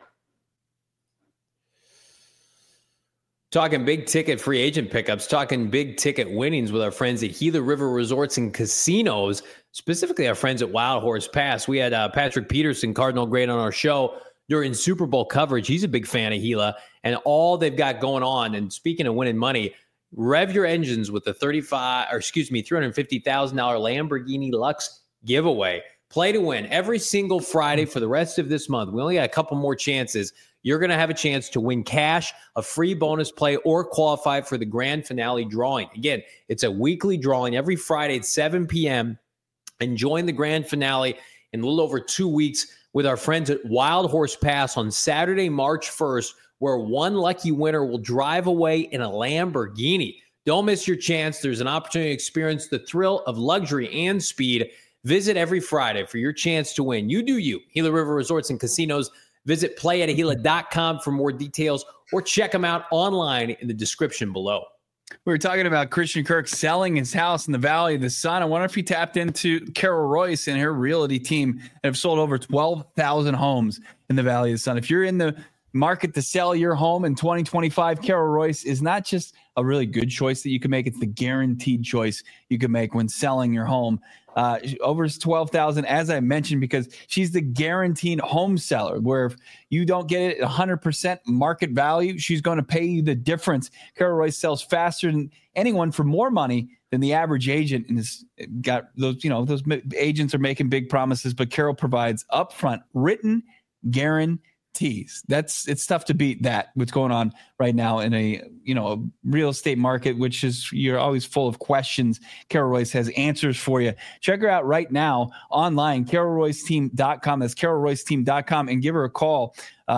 Talking big ticket free agent pickups, talking big ticket winnings with our friends at Gila River Resorts and Casinos, specifically our friends at Wild Horse Pass. We had Patrick Peterson, Cardinal Great, on our show during Super Bowl coverage. He's a big fan of Gila and all they've got going on. And speaking of winning money, rev your engines with the $350,000 Lamborghini Lux giveaway. Play to win every single Friday for the rest of this month. We only got a couple more chances. You're going to have a chance to win cash, a free bonus play, or qualify for the grand finale drawing. Again, it's a weekly drawing every Friday at 7 p.m. And join the grand finale in a little over 2 weeks with our friends at Wild Horse Pass on Saturday, March 1st, where one lucky winner will drive away in a Lamborghini. Don't miss your chance. There's an opportunity to experience the thrill of luxury and speed. Visit every Friday for your chance to win. You do you. Gila River Resorts and Casinos. Visit playatagila.com for more details or check them out online in the description below. We were talking about Christian Kirk selling his house in the Valley of the Sun. I wonder if he tapped into Carol Royce and her realty team that have sold over 12,000 homes in the Valley of the Sun. If you're in the market to sell your home in 2025, Carol Royce is not just a really good choice that you can make. It's the guaranteed choice you can make when selling your home. Over 12,000, as I mentioned, because she's the guaranteed home seller, where if you don't get it at 100% market value, she's going to pay you the difference. Carol Royce sells faster than anyone for more money than the average agent, and has got those, those agents are making big promises, but Carol provides upfront written guarantees. It's tough to beat that, what's going on right now in a real estate market, which is, you're always full of questions. Carol Royce has answers for you. Check her out right now online, carolroyceteam.com. That's carolroyceteam.com, and give her a call,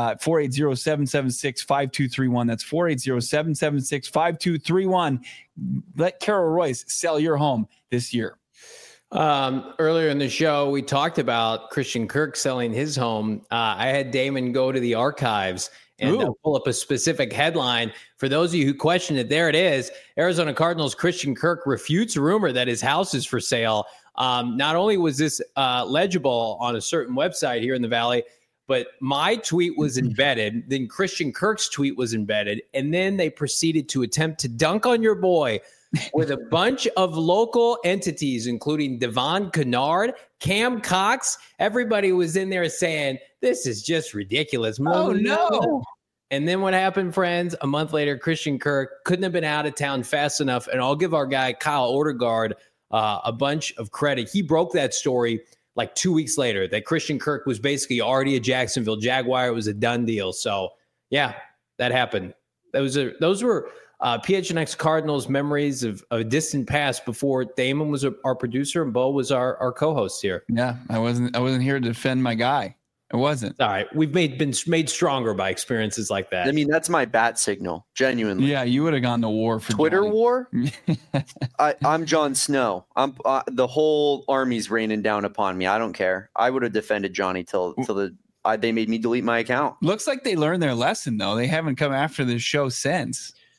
480-776-5231. That's 480-776-5231. Let Carol Royce sell your home this year. Earlier in the show, we talked about Christian Kirk selling his home. I had Damon go to the archives and pull up a specific headline. For those of you who questioned it, there it is. Arizona Cardinals Christian Kirk refutes rumor that his house is for sale. Not only was this legible on a certain website here in the Valley, but my tweet was embedded. Then Christian Kirk's tweet was embedded. And then they proceeded to attempt to dunk on your boy with a bunch of local entities, including Devon Kennard, Cam Cox. Everybody was in there saying, this is just ridiculous. Oh, no. And then what happened, friends? A month later, Christian Kirk couldn't have been out of town fast enough. And I'll give our guy, Kyle Ortegard, a bunch of credit. He broke that story like 2 weeks later, that Christian Kirk was basically already a Jacksonville Jaguar. It was a done deal. So, yeah, that happened. Those were PHNX Cardinals memories of a distant past before Damon was our producer and Bo was our co-host here. Yeah, I wasn't here to defend my guy. I wasn't. All right, we've been made stronger by experiences like that. I mean, that's my bat signal, genuinely. Yeah, you would have gone to war for Twitter Johnny. War. I'm Jon Snow. I'm the whole army's raining down upon me. I don't care. I would have defended Johnny till they made me delete my account. Looks like they learned their lesson though. They haven't come after this show since.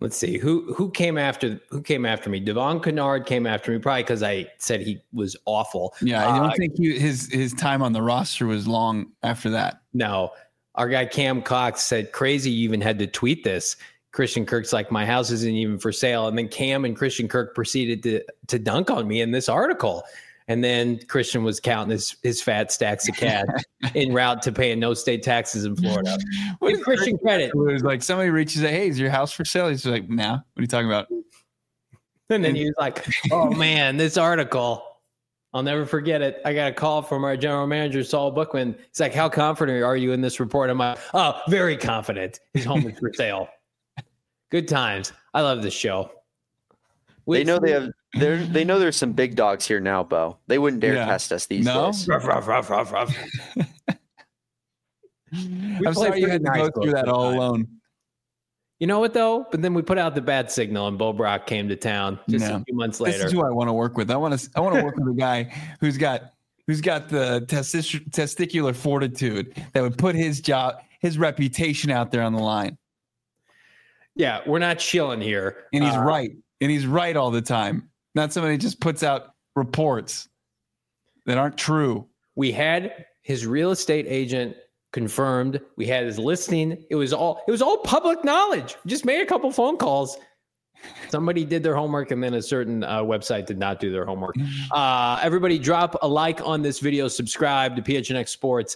Let's see who came after me. Devon Kennard came after me, probably because I said he was awful. Yeah, I don't think his time on the roster was long after that. No, our guy Cam Cox said, "Crazy, you even had to tweet this." Christian Kirk's like, "My house isn't even for sale," and then Cam and Christian Kirk proceeded to dunk on me in this article. And then Christian was counting his fat stacks of cash en route to paying no state taxes in Florida. Give Christian credit. It was like somebody reaches out, "Hey, is your house for sale?" He's like, "Nah, what are you talking about?" And then he was like, "Oh man, this article, I'll never forget it. I got a call from our general manager, Saul Bookman. He's like, how confident are you in this report?" I'm like, "Oh, very confident. His home is for sale." Good times. I love this show. They know they know there's some big dogs here now, Bo. They wouldn't dare test us these days. Ruff, ruff, ruff, ruff, ruff. I'm sorry you had to go through that all alone. You know what, though? But then we put out the bad signal, and Bo Brock came to town just a few months later. This is who I want to work with. I want to work with a guy who's got the testicular fortitude that would put his reputation out there on the line. Yeah, we're not chilling here. And he's right. And he's right all the time. Not somebody who just puts out reports that aren't true. We had his real estate agent confirmed. We had his listing. It was all public knowledge. Just made a couple phone calls. Somebody did their homework, and then a certain website did not do their homework. Everybody drop a like on this video. Subscribe to PHNX Sports.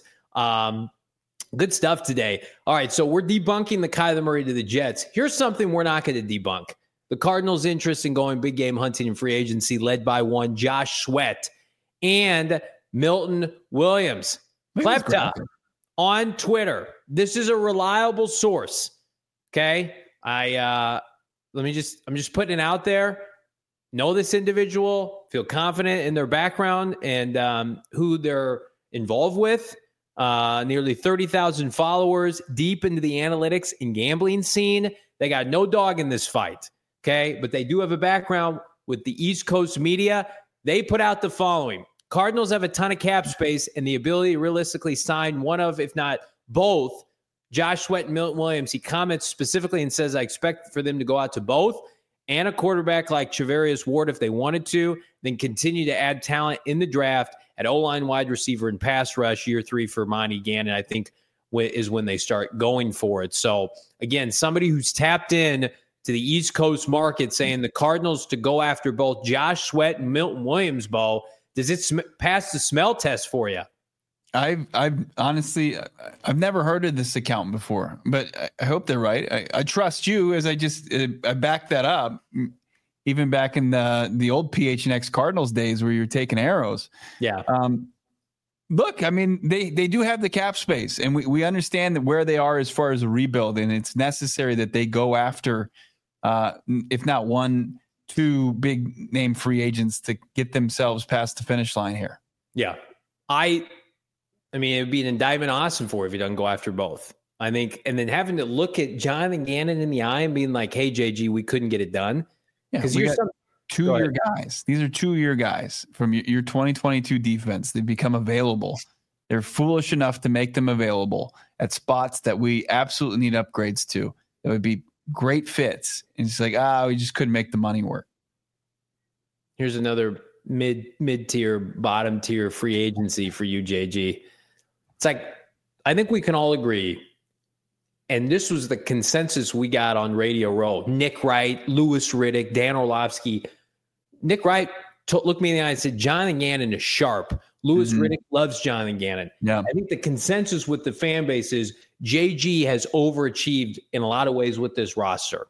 Good stuff today. All right, so we're debunking the Kyler Murray to the Jets. Here's something we're not going to debunk. The Cardinals' interest in going big game hunting in free agency, led by one Josh Sweat and Milton Williams. Klepta on Twitter. This is a reliable source. Okay, I'm just putting it out there. Know this individual, feel confident in their background and who they're involved with. Nearly 30,000 followers, deep into the analytics and gambling scene. They got no dog in this fight. Okay, but they do have a background with the East Coast media. They put out the following. Cardinals have a ton of cap space and the ability to realistically sign one of, if not both, Josh Sweat and Milton Williams. He comments specifically and says, I expect for them to go out to both and a quarterback like Charvarius Ward if they wanted to, then continue to add talent in the draft at O-line, wide receiver, and pass rush. Year 3 for Monty Gannon, I think, is when they start going for it. So, again, somebody who's tapped in to the East Coast market saying the Cardinals to go after both Josh Sweat and Milton Williams, Bo. Does it pass the smell test for you? I've honestly, I've never heard of this account before, but I hope they're right. I trust you as I back that up. Even back in the old PHNX Cardinals days where you're taking arrows. Yeah. Look, I mean, they do have the cap space, and we understand that where they are as far as a rebuild, and it's necessary that they go after, if not 1-2 big name free agents to get themselves past the finish line here. Yeah. I mean, it would be an indictment of Austin for if he doesn't go after both. I think, and then having to look at Jonathan Gannon in the eye and being like, hey, JG, we couldn't get it done. Because you're 2-year guys. These are 2-year guys from your 2022 defense. They've become available. They're foolish enough to make them available at spots that we absolutely need upgrades to. That would be great fits. And it's like, we just couldn't make the money work. Here's another mid-tier, bottom-tier free agency for you, JG. It's like, I think we can all agree, and this was the consensus we got on Radio Row. Nick Wright, Louis Riddick, Dan Orlovsky. Nick Wright looked me in the eye and said, Jonathan Gannon is sharp. Louis Riddick loves Jonathan Gannon. Yeah. I think the consensus with the fan base is JG has overachieved in a lot of ways with this roster.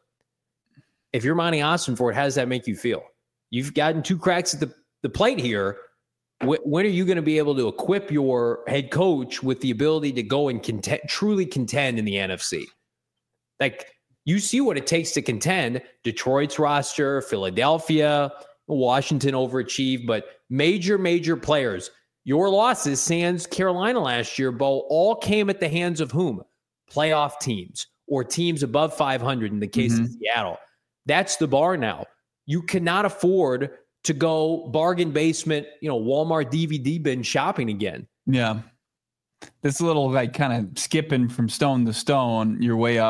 If you're Monty Ossenfort, how does that make you feel? You've gotten 2 cracks at the plate here. When are you going to be able to equip your head coach with the ability to go and truly contend in the NFC? Like, you see what it takes to contend. Detroit's roster, Philadelphia, Washington overachieved, but major players. Your losses, sans Carolina last year, Bo, all came at the hands of whom? Playoff teams or teams above 500 in the case of Seattle. That's the bar now. You cannot afford to go bargain basement, Walmart DVD bin shopping again. Yeah. This little kind of skipping from stone to stone your way up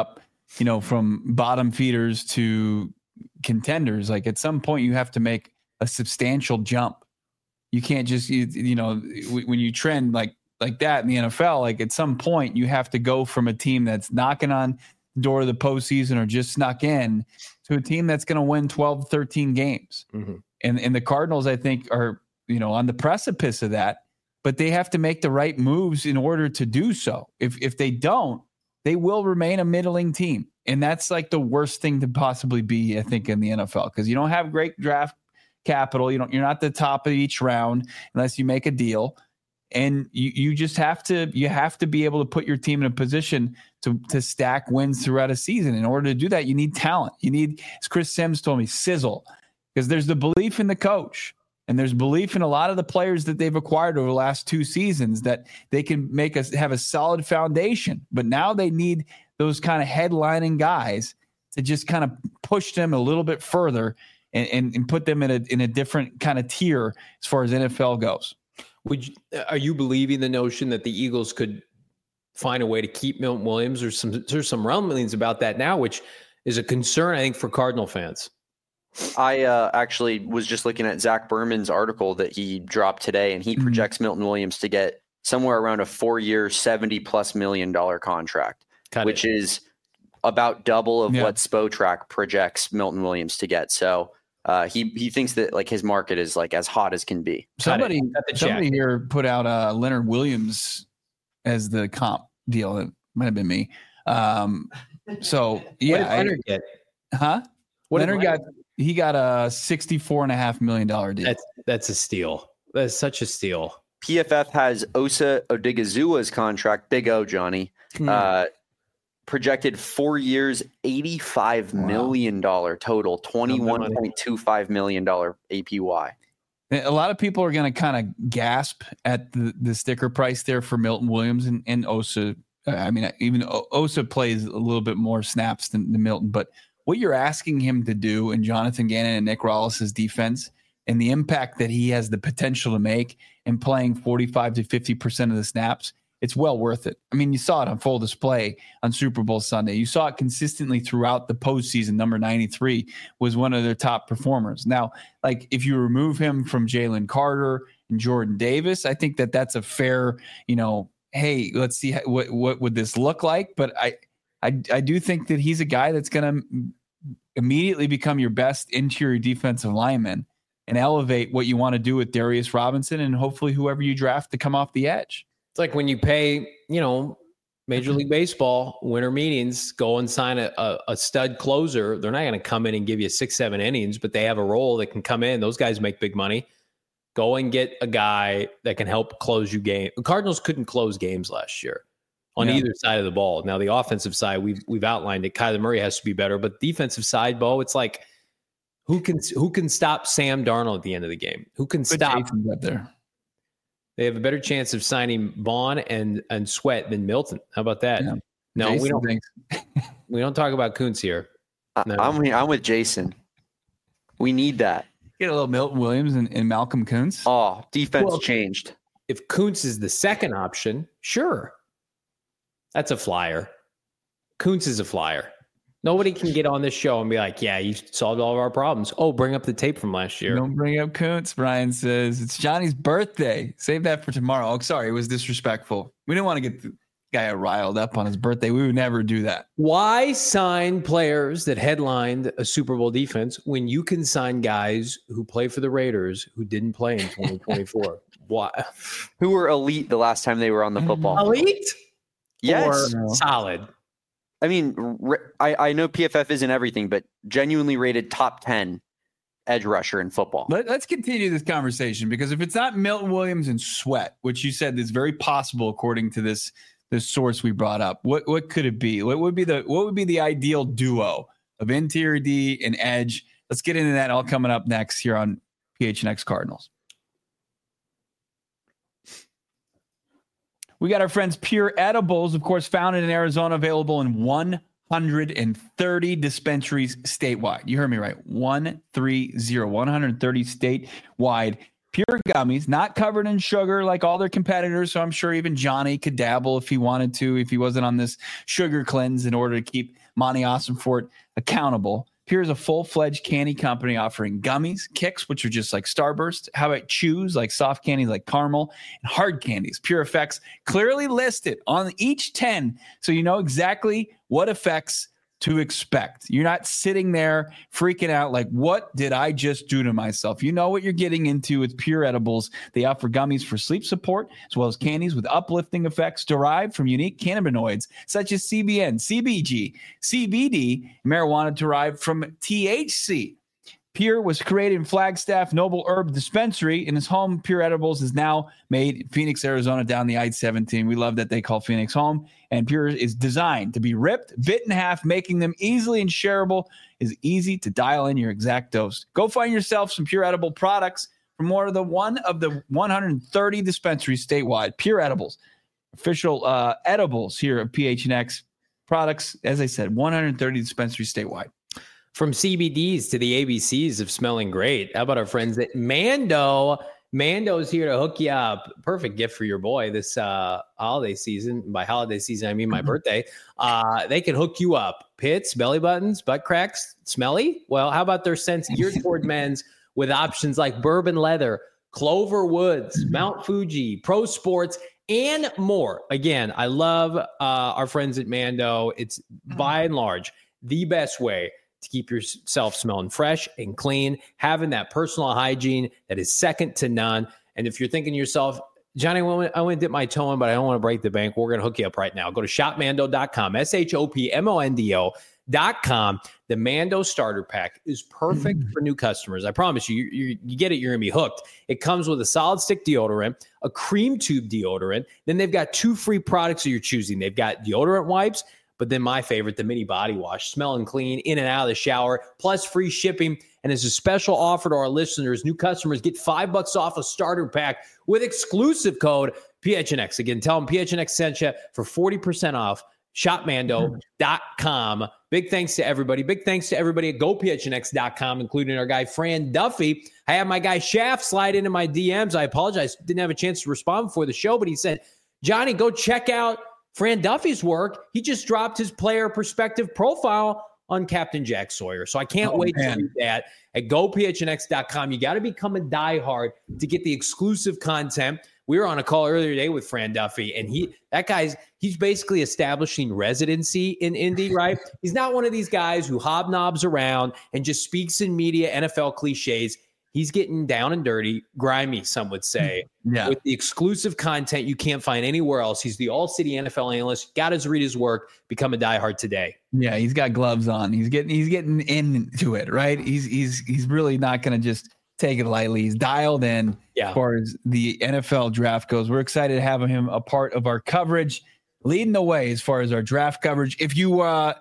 from bottom feeders to contenders. Like at some point you have to make a substantial jump. You can't just, when you trend like that in the NFL, like at some point you have to go from a team that's knocking on the door of the postseason or just snuck in to a team that's going to win 12, 13 games. Mm-hmm. And the Cardinals, I think, are, on the precipice of that, but they have to make the right moves in order to do so. If they don't, they will remain a middling team. And that's like the worst thing to possibly be, I think, in the NFL, because you don't have great draft capital. You're not the top of each round unless you make a deal. And you just have to be able to put your team in a position to stack wins throughout a season. In order to do that, you need talent. You need, as Chris Sims told me, sizzle, because there's the belief in the coach. And there's belief in a lot of the players that they've acquired over the last 2 seasons that they can have a solid foundation. But now they need those kind of headlining guys to just kind of push them a little bit further and put them in a different kind of tier as far as NFL goes. Are you believing the notion that the Eagles could find a way to keep Milton Williams? There's some rumblings about that now, which is a concern, I think, for Cardinal fans. I actually was just looking at Zach Berman's article that he dropped today, and he projects Milton Williams to get somewhere around a 4-year, $70+ million contract, which is about double of what Spotrac projects Milton Williams to get. So he thinks that like his market is like as hot as can be. Somebody here put out Leonard Williams as the comp deal. It might have been me. So yeah, what did Leonard get? Huh? Leonard got a $64.5 million deal. That's a steal. That's such a steal. PFF has Osa Odighizuwa's contract, Big O, Johnny, projected 4 years, $85 million total, $21.25 million APY. A lot of people are going to kind of gasp at the sticker price there for Milton Williams and Osa. I mean, even Osa plays a little bit more snaps than Milton, but what you're asking him to do in Jonathan Gannon and Nick Rollis' defense and the impact that he has the potential to make in playing 45 to 50% of the snaps, it's well worth it. I mean, you saw it on full display on Super Bowl Sunday. You saw it consistently throughout the postseason. Number 93 was one of their top performers. Now, like if you remove him from Jalen Carter and Jordan Davis, I think that's a fair, hey, let's see what would this look like. But I do think that he's a guy that's going to immediately become your best interior defensive lineman and elevate what you want to do with Darius Robinson and hopefully whoever you draft to come off the edge. It's like when you pay, Major League Baseball winter meetings, go and sign a stud closer. They're not going to come in and give you 6-7 innings, but they have a role that can come in. Those guys make big money. Go and get a guy that can help close you game. The Cardinals couldn't close games last year on either side of the ball. Now the offensive side, we've outlined it. Kyler Murray has to be better, but defensive side, Bo, it's like who can stop Sam Darnold at the end of the game? Who can stop Jason's up there? They have a better chance of signing Vaughn and Sweat than Milton. How about that? Yeah. No, Jason we don't talk about Kuntz here. No. I'm with Jason. We need that. Get a little Milton Williams and Malcolm Kuntz. Oh, defense changed. If Kuntz is the second option, sure. That's a flyer. Kuntz is a flyer. Nobody can get on this show and be like, yeah, you solved all of our problems. Oh, bring up the tape from last year. Don't bring up Kuntz, Brian says. It's Johnny's birthday. Save that for tomorrow. Oh, sorry, it was disrespectful. We didn't want to get the guy riled up on his birthday. We would never do that. Why sign players that headlined a Super Bowl defense when you can sign guys who play for the Raiders who didn't play in 2024? Why? Who were elite the last time they were on the football field? Elite? Yes. Or solid? I mean, I know PFF isn't everything, but genuinely rated top 10 edge rusher in football. Let's continue this conversation, because if it's not Milton Williams and Sweat, which you said is very possible according to this source we brought up, what could it be? What would be the ideal duo of interior D and edge? Let's get into that all coming up next here on PHNX Cardinals. We got our friends Pure Edibles, of course, founded in Arizona, available in 130 dispensaries statewide. You heard me right. 130 statewide. Pure gummies, not covered in sugar like all their competitors. So I'm sure even Johnny could dabble if he wanted to, if he wasn't on this sugar cleanse in order to keep Monty Ossenfort accountable. Pure is a full-fledged candy company offering gummies, kicks, which are just like Starburst. How about chews, like soft candies like caramel, and hard candies? Pure Effects clearly listed on each 10, so you know exactly what effects to expect. You're not sitting there freaking out like, what did I just do to myself? You know what you're getting into with Pure Edibles. They offer gummies for sleep support, as well as candies with uplifting effects derived from unique cannabinoids such as CBN, CBG, CBD, and marijuana derived from THC. Pure was created in Flagstaff Noble Herb Dispensary. In his home, Pure Edibles is now made in Phoenix, Arizona, down the I-17. We love that they call Phoenix home. And Pure is designed to be ripped, bit in half, making them easily and shareable. Is easy to dial in your exact dose. Go find yourself some Pure Edible products from one of the 130 dispensaries statewide. Pure Edibles, official edibles here at PHNX products. As I said, 130 dispensaries statewide. From CBDs to the ABCs of smelling great. How about our friends at Mando? Mando's here to hook you up. Perfect gift for your boy this holiday season. By holiday season, I mean my birthday. They can hook you up. Pits, belly buttons, butt cracks, smelly? Well, how about their scents geared toward men's with options like bourbon leather, Clover Woods, Mount Fuji, Pro Sports, and more. Again, I love our friends at Mando. It's by and large the best way to keep yourself smelling fresh and clean, having that personal hygiene that is second to none. And if you're thinking to yourself, Johnny, I want to dip my toe in, but I don't want to break the bank, we're going to hook you up right now. Go to shopmando.com, shopmondo.com. The Mando starter pack is perfect for new customers. I promise you, you get it, you're going to be hooked. It comes with a solid stick deodorant, a cream tube deodorant. Then they've got 2 free products that you're choosing. They've got deodorant wipes, but then my favorite, the mini body wash, smelling clean in and out of the shower, plus free shipping. And as a special offer to our listeners, new customers get $5 off a starter pack with exclusive code PHNX. Again, tell them PHNX sent you for 40% off. Shopmando.com. Big thanks to everybody. Big thanks to everybody at GoPHNX.com, including our guy Fran Duffy. I had my guy Shaft slide into my DMs. I apologize, didn't have a chance to respond before the show, but he said, Johnny, go check out Fran Duffy's work. He just dropped his player perspective profile on Captain Jack Sawyer. So I can't wait to read that at GoPHNX.com. You got to become a diehard to get the exclusive content. We were on a call earlier today with Fran Duffy, and he's basically establishing residency in Indy, right? He's not one of these guys who hobnobs around and just speaks in media NFL cliches. He's getting down and dirty, grimy, some would say, with the exclusive content you can't find anywhere else. He's the all-city NFL analyst. Got to read his work. Become a diehard today. Yeah, he's got gloves on. He's getting into it, right? He's really not going to just take it lightly. He's dialed in as far as the NFL draft goes. We're excited to have him a part of our coverage, leading the way as far as our draft coverage. If you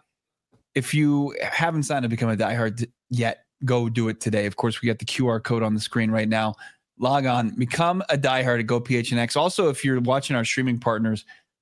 haven't signed up to become a diehard yet, go do it today. Of course, we got the QR code on the screen right now. Log on, become a diehard at GoPHNX. Also, if you're watching our streaming partners,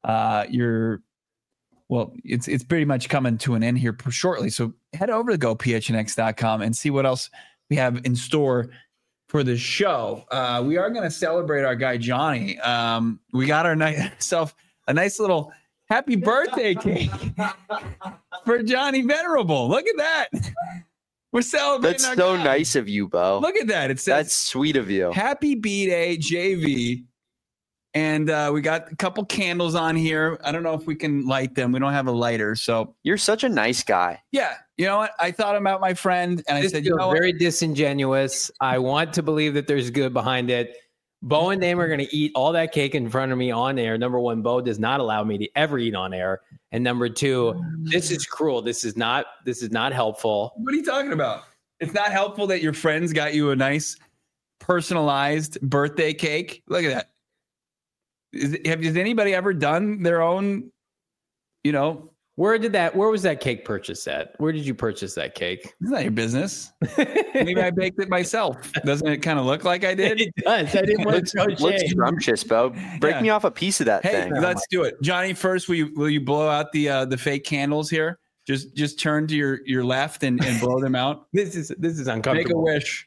it's pretty much coming to an end here shortly. So head over to GoPHNX.com and see what else we have in store for the show. We are going to celebrate our guy Johnny. We got ourselves a nice little happy birthday cake for Johnny Venerable. Look at that. We're celebrating. That's so nice of you, Bo. Look at that. It says, that's sweet of you. Happy B-Day, JV. And we got a couple candles on here. I don't know if we can light them. We don't have a lighter. So you're such a nice guy. Yeah. You know what? I thought about my friend and I said, very disingenuous. I want to believe that there's good behind it. Bo and Dame are going to eat all that cake in front of me on air. Number one, Bo does not allow me to ever eat on air. And number two, this is cruel. This is not helpful. What are you talking about? It's not helpful that your friends got you a nice personalized birthday cake. Look at that. Has anybody ever done their own, Where was that cake purchased at? Where did you purchase that cake? It's not your business. Maybe I baked it myself. Doesn't it kind of look like I did? It does. I didn't want to looks scrumptious, Bo. Break me off a piece of that thing. Let's do it. Johnny, first, will you blow out the fake candles here? Just turn to your left and blow them out. This is uncomfortable. Make a wish.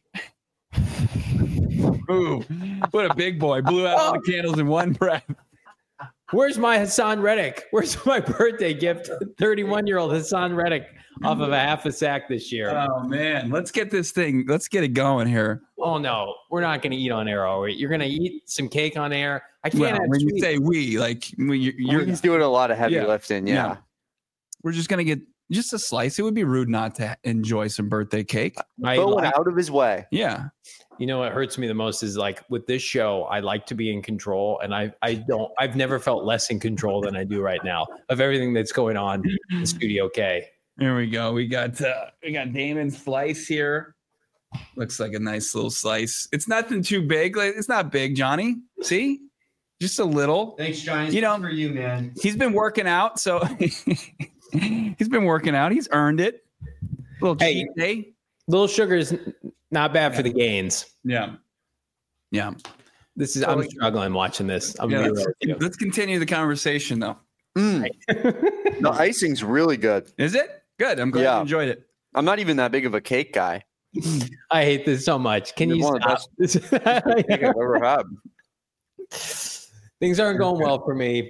Ooh, what a big boy. Blew out all the candles in one breath. Where's my Hassan Reddick? Where's my birthday gift? 31-year-old Hassan Reddick off of a half a sack this year. Oh man, let's get it going here. Oh no, we're not going to eat on air, are we? You're going to eat some cake on air. I can't have when sweet. you say we, like you're doing a lot of heavy lifting. Yeah. We're just going to get just a slice. It would be rude not to enjoy some birthday cake. Going out of his way. Yeah. You know what hurts me the most is like with this show, I like to be in control, and I've never felt less in control than I do right now of everything that's going on in Studio K. There we go. We got Damon's slice here. Looks like a nice little slice. It's nothing too big. Like, it's not big, Johnny. See? Just a little. Thanks, Johnny. You know, for you, man. He's been working out, so he's been working out. He's earned it. Little cheat day. Little sugar is not bad for the gains. Yeah. Yeah. I'm struggling watching this. Let's continue the conversation though. The icing's really good. Is it? Good. I'm glad you enjoyed it. I'm not even that big of a cake guy. I hate this so much. Can you stop? I've ever had. Things aren't going well for me.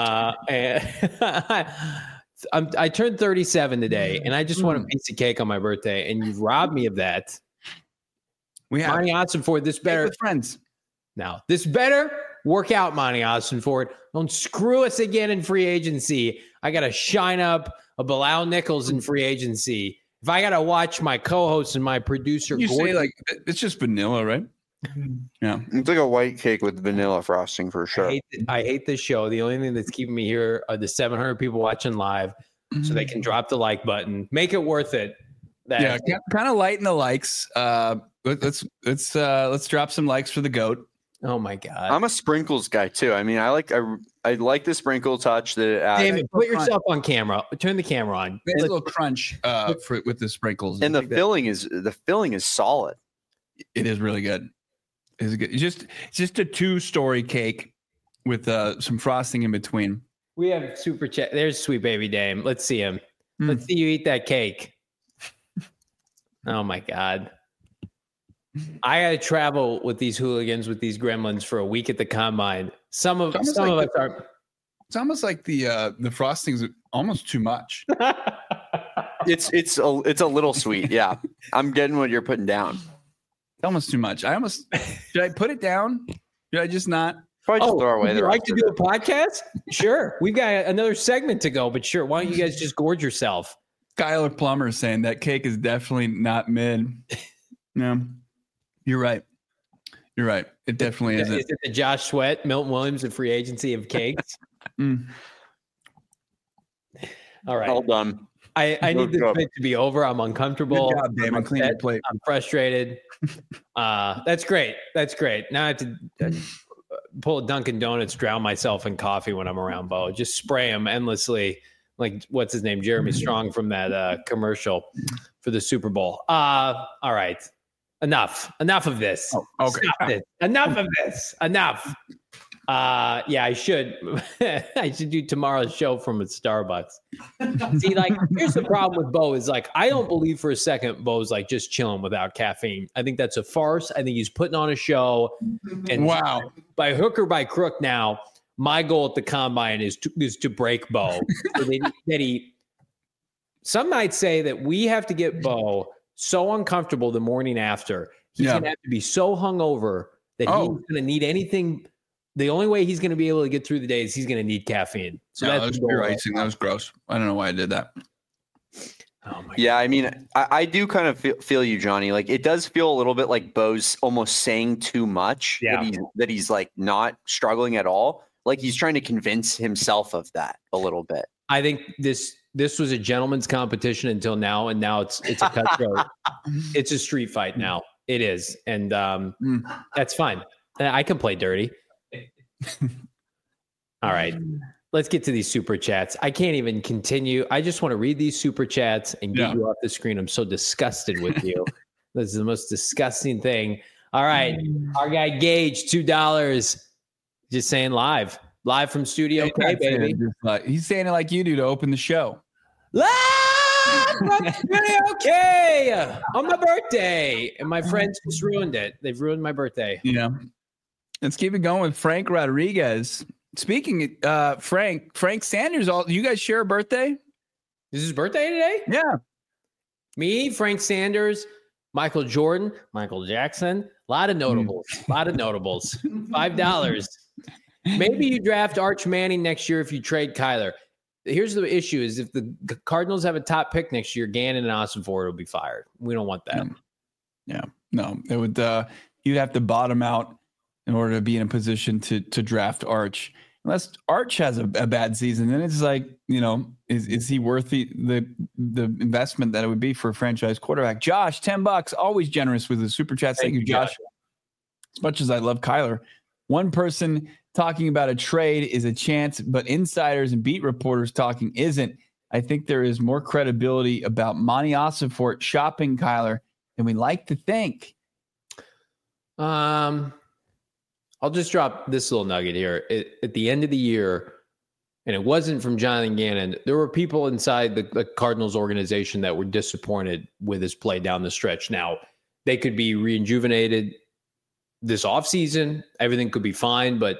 I turned 37 today, and I just want a piece of cake on my birthday, and you've robbed me of that. We have Monty Ossenford. This better with friends. Now, this better work out, Monty Ossenford. Don't screw us again in free agency. I got to shine up a Bilal Nichols in free agency. If I got to watch my co-host and my producer, you say like it's just vanilla, right? Yeah, it's like a white cake with vanilla frosting for sure. I hate this show. The only thing that's keeping me here are the 700 people watching live, so they can drop the like button. Make it worth it. Kind of lighten the likes. Let's drop some likes for the GOAT. Oh my God, I'm a sprinkles guy too. I mean, I like the sprinkle touch that it adds. David, put yourself on camera. Turn the camera on. There's a little crunch with the sprinkles, and the filling is solid. It is really good. It's good. It's just a 2-story cake with some frosting in between. We have super chat. There's sweet baby Dame. Let's see him. Let's see you eat that cake. Oh my God. I got to travel with these hooligans, with these gremlins for a week at the combine. Some of us are. It's almost like the frosting's almost too much. It's a little sweet. Yeah, I'm getting what you're putting down. It's almost too much. Should I put it down? Should I just not? Probably just throw away. Would you like to do a podcast? Sure. We've got another segment to go, but sure. Why don't you guys just gorge yourself? Skylar Plummer is saying that cake is definitely not mid. No, you're right. You're right. It definitely isn't. Is it the Josh Sweat, Milton Williams, and free agency of cakes? All right. All done. I need this bit to be over. I'm uncomfortable. Good job, Damon. Clean your plate. I'm frustrated. That's great. That's great. Now I have to pull a Dunkin' Donuts, drown myself in coffee when I'm around Bo. Just spray him endlessly. Like, what's his name? Jeremy Strong from that commercial for the Super Bowl. All right. Enough of this. Oh, okay. Stop this. Enough of this. Enough. Yeah, I should do tomorrow's show from a Starbucks. See, like, here's the problem with Bo is like, I don't believe for a second Bo's like just chilling without caffeine. I think that's a farce. I think he's putting on a show. And wow, by hook or by crook now, my goal at the combine is to break Bo. So some might say that we have to get Bo so uncomfortable the morning after. He's going to have to be so hungover that he's going to need anything. The only way he's going to be able to get through the day is he's going to need caffeine. So that's pure icing. That was gross. I don't know why I did that. Oh my God. I mean, I do kind of feel you, Johnny. Like, it does feel a little bit like Bo's almost saying too much. Yeah. That he's like not struggling at all. Like, he's trying to convince himself of that a little bit. I think this was a gentleman's competition until now, and now it's a cutthroat. It's a street fight now. It is, and that's fine. I can play dirty. All right, let's get to these super chats. I can't even continue. I just want to read these super chats and get you off the screen. I'm so disgusted with you. This is the most disgusting thing. All right, our guy Gage, $2. Just saying live from Studio K, baby. He's saying it like you do to open the show. Live from Studio K on my birthday, and my friends just ruined it. They've ruined my birthday. Yeah. Let's keep it going with Frank Rodriguez. Speaking Frank Sanders, you guys share a birthday? Is his birthday today? Yeah. Me, Frank Sanders, Michael Jordan, Michael Jackson, a lot of notables. $5. Maybe you draft Arch Manning next year if you trade Kyler. Here's the issue: is if the Cardinals have a top pick next year, Gannon and Ossenfort will be fired. We don't want that. Yeah, no, it would. You'd have to bottom out in order to be in a position to draft Arch. Unless Arch has a bad season, then it's like, is he worth the investment that it would be for a franchise quarterback? Josh, $10, always generous with the super chats. Thank you, Josh. As much as I love Kyler, one person talking about a trade is a chance, but insiders and beat reporters talking isn't. I think there is more credibility about Monty Ossenfort shopping Kyler than we like to think. I'll just drop this little nugget here. At the end of the year, and it wasn't from Jonathan Gannon, there were people inside the Cardinals organization that were disappointed with his play down the stretch. Now, they could be rejuvenated this offseason. Everything could be fine, but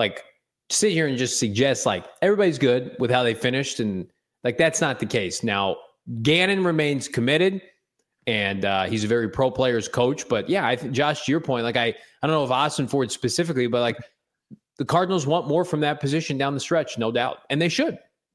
sit here and just suggest everybody's good with how they finished, and that's not the case. Now, Gannon remains committed. And he's a very pro players coach. But yeah, I think, Josh, to your point, I don't know if Ossenfort specifically, but the Cardinals want more from that position down the stretch, no doubt. And they should.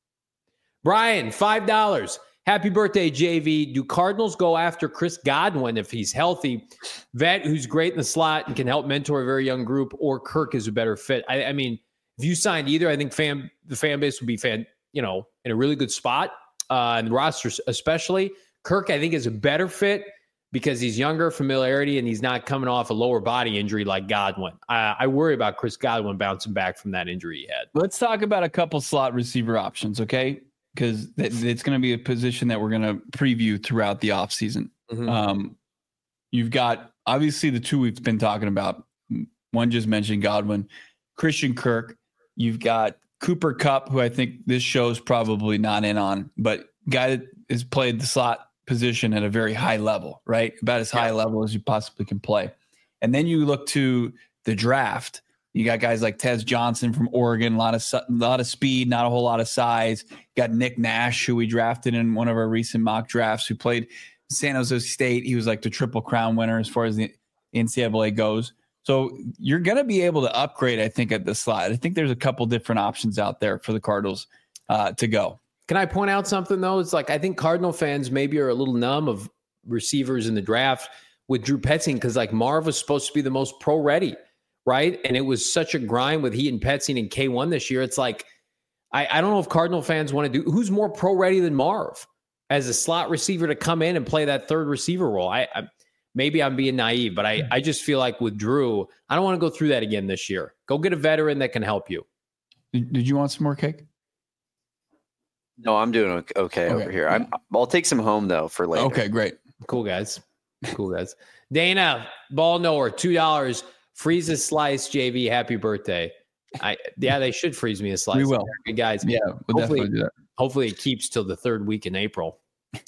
Brian, $5. Happy birthday, JV. Do Cardinals go after Chris Godwin if he's healthy? Vet who's great in the slot and can help mentor a very young group, or Kirk is a better fit? I mean, if you signed either, I think the fan base would be in a really good spot, and the roster especially. Kirk, I think, is a better fit because he's younger, familiarity, and he's not coming off a lower body injury like Godwin. I worry about Chris Godwin bouncing back from that injury he had. Let's talk about a couple slot receiver options, okay? Because it's going to be a position that we're going to preview throughout the offseason. Mm-hmm. You've got, obviously, the two we've been talking about. One just mentioned Godwin. Christian Kirk. You've got Cooper Kupp, who I think this show's probably not in on, but guy that has played the slot position at a very high level, right? About as high a level as you possibly can play. And then you look to the draft. You got guys like Tez Johnson from Oregon, a lot of speed, not a whole lot of size. You got Nick Nash, who we drafted in one of our recent mock drafts, who played San Jose State. He was the Triple Crown winner as far as the NCAA goes. So you're going to be able to upgrade, I think, at the slot. I think there's a couple different options out there for the Cardinals to go. Can I point out something, though? It's I think Cardinal fans maybe are a little numb of receivers in the draft with Drew Petzing because, Marv was supposed to be the most pro-ready, right? And it was such a grind with he and Petzing in K1 this year. It's I don't know if Cardinal fans want to do – who's more pro-ready than Marv as a slot receiver to come in and play that third receiver role? Maybe I'm being naive, but I just feel like with Drew, I don't want to go through that again this year. Go get a veteran that can help you. Did you want some more cake? No, I'm doing okay over here. Yeah. I'll take some home, though, for later. Okay, great. Cool, guys. Dana, ball knower, $2. Freeze a slice, JV. Happy birthday. They should freeze me a slice. We will. Good guys. Yeah, we'll definitely do that. Hopefully it keeps till the third week in April.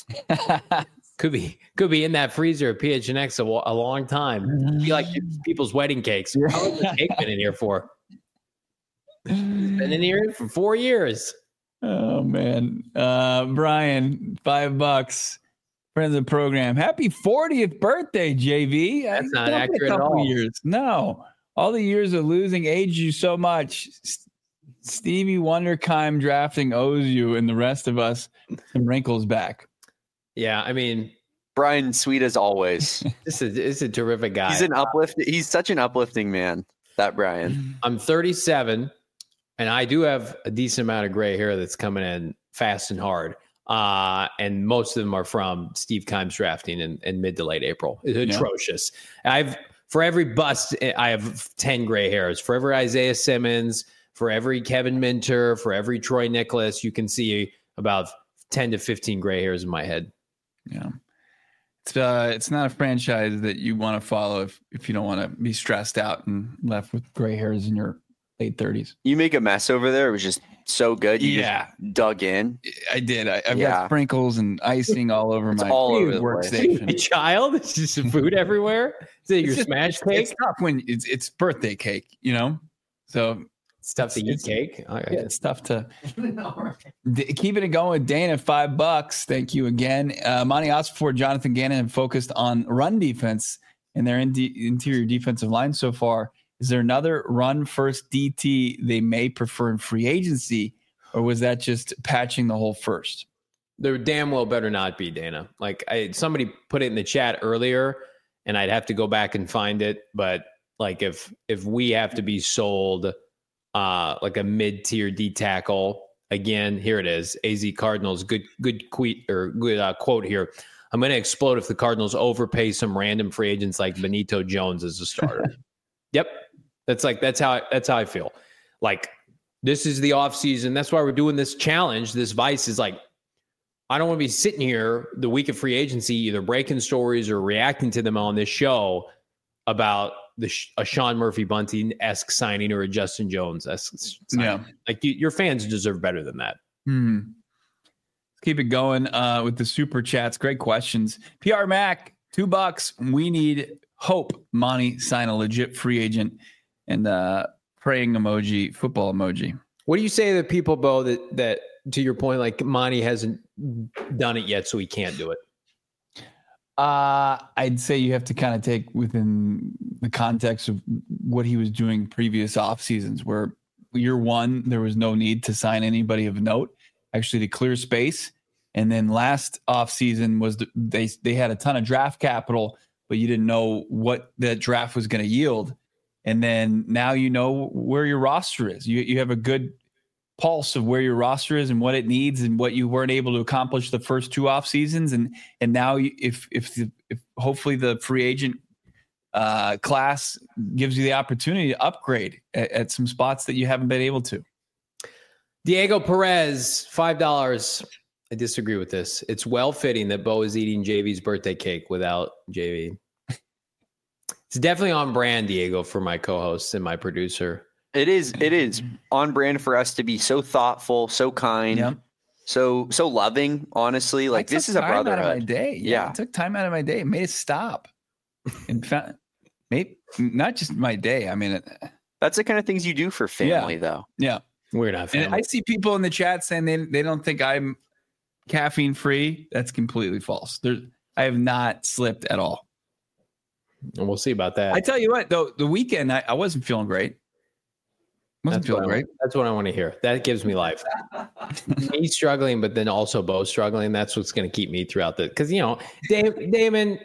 Could be in that freezer at PHNX a long time. It'd be like people's wedding cakes. How long has the cake been in here for? It's been in here for 4 years. Oh, man. Brian, $5. Friends of the program. Happy 40th birthday, JV. That's not accurate at all. Years. No. All the years of losing aged you so much. Stevie Wonderkime drafting owes you and the rest of us some wrinkles back. Yeah, I mean, Brian, sweet as always. This is a terrific guy. He's such an uplifting man, that Brian. I'm 37. And I do have a decent amount of gray hair that's coming in fast and hard. And most of them are from Steve Kimes drafting in mid to late April. It's atrocious. For every bust, I have 10 gray hairs. For every Isaiah Simmons, for every Kevin Minter, for every Troy Nicholas, you can see about 10 to 15 gray hairs in my head. Yeah. It's not a franchise that you want to follow if you don't want to be stressed out and left with gray hairs in your late 30s. You make a mess over there. It was just so good. You just dug in. I did. I've got sprinkles and icing all over my workstation. Child, it's just some food everywhere. Is it your smash cake? It's tough when it's birthday cake, So It's tough to eat cake. It's tough to keeping it going with Dana. $5. Thank you again. Monty Osborne, Jonathan Gannon have focused on run defense and their interior defensive line so far. Is there another run first DT they may prefer in free agency, or was that just patching the hole first? There damn well better not be, Dana. Like somebody put it in the chat earlier, and I'd have to go back and find it. But like if we have to be sold like a mid-tier D tackle, again, here it is. AZ Cardinals, good quote here. I'm going to explode if the Cardinals overpay some random free agents like Benito Jones as a starter. Yep. That's how I feel. Like, this is the offseason. That's why we're doing this challenge. This Vice is like, I don't want to be sitting here the week of free agency, either breaking stories or reacting to them on this show about a Sean Murphy Bunting-esque signing or a Justin Jones-esque signing. Yeah. Like, your fans deserve better than that. Let's keep it going with the super chats. Great questions. PR Mac, $2. We need hope Monty sign a legit free agent, and praying emoji, football emoji. What do you say to people, Bo, that to your point, like Monty hasn't done it yet, so he can't do it? I'd say you have to kind of take within the context of what he was doing previous off seasons, where year one, there was no need to sign anybody of note, actually to clear space. And then last off season was they had a ton of draft capital, but you didn't know what that draft was going to yield. And then now you know where your roster is. You have a good pulse of where your roster is and what it needs and what you weren't able to accomplish the first two off seasons. And now if hopefully the free agent class gives you the opportunity to upgrade at some spots that you haven't been able to. Diego Perez, $5. I disagree with this. It's well fitting that Bo is eating JV's birthday cake without JV. It's definitely on brand, Diego, for my co-host and my producer. It is on brand for us to be so thoughtful, so kind, so loving. Honestly, like this is a brotherhood. Out of my day. Yeah, I took time out of my day. Made it stop. In fact, maybe not just my day. I mean, that's the kind of things you do for family, though. Yeah, we're not family. And I see people in the chat saying they don't think I'm caffeine free. That's completely false. I have not slipped at all. And we'll see about that. I tell you what, though, the weekend I wasn't feeling great. Wasn't feeling great. That's what I want to hear. That gives me life. Me struggling, but then also Bo struggling. That's what's going to keep me throughout because Damon.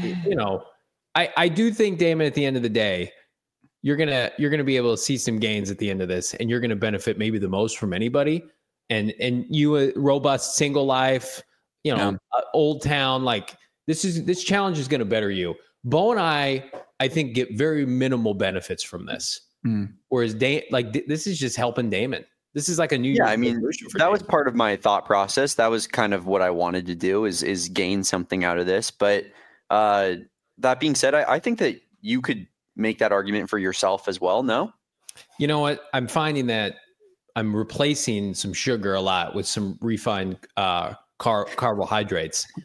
I do think Damon. At the end of the day, you're gonna be able to see some gains at the end of this, and you're gonna benefit maybe the most from anybody. And you a robust single life, Old Town, like this challenge is gonna better you. Bo and I think get very minimal benefits from this. Whereas this is just helping Damon. This is like a new year. I mean, that was part of my thought process. That was kind of what I wanted to do is gain something out of this. But that being said, I think that you could make that argument for yourself as well. No? You know what? I'm finding that I'm replacing some sugar a lot with some refined carbohydrates.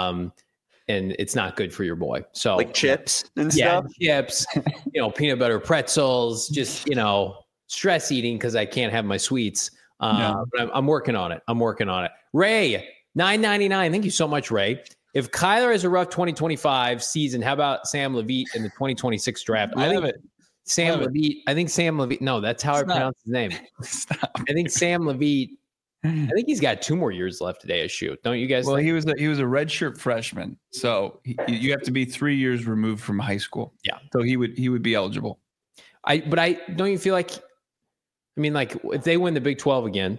And it's not good for your boy. So like chips and stuff. Chips, peanut butter pretzels, just, stress eating because I can't have my sweets. But I'm working on it. Ray, $9.99. Thank you so much, Ray. If Kyler has a rough 2025 season, how about Sam Levitt in the 2026 draft? I think Sam Levitt. No, that's how I pronounce his name. I think Sam Levitt. I think he's got 2 more years left at ASU. Don't you guys? Well, he was a redshirt freshman, so you have to be 3 years removed from high school. Yeah, so he would be eligible. But don't you feel like? I mean, like if they win the Big 12 again,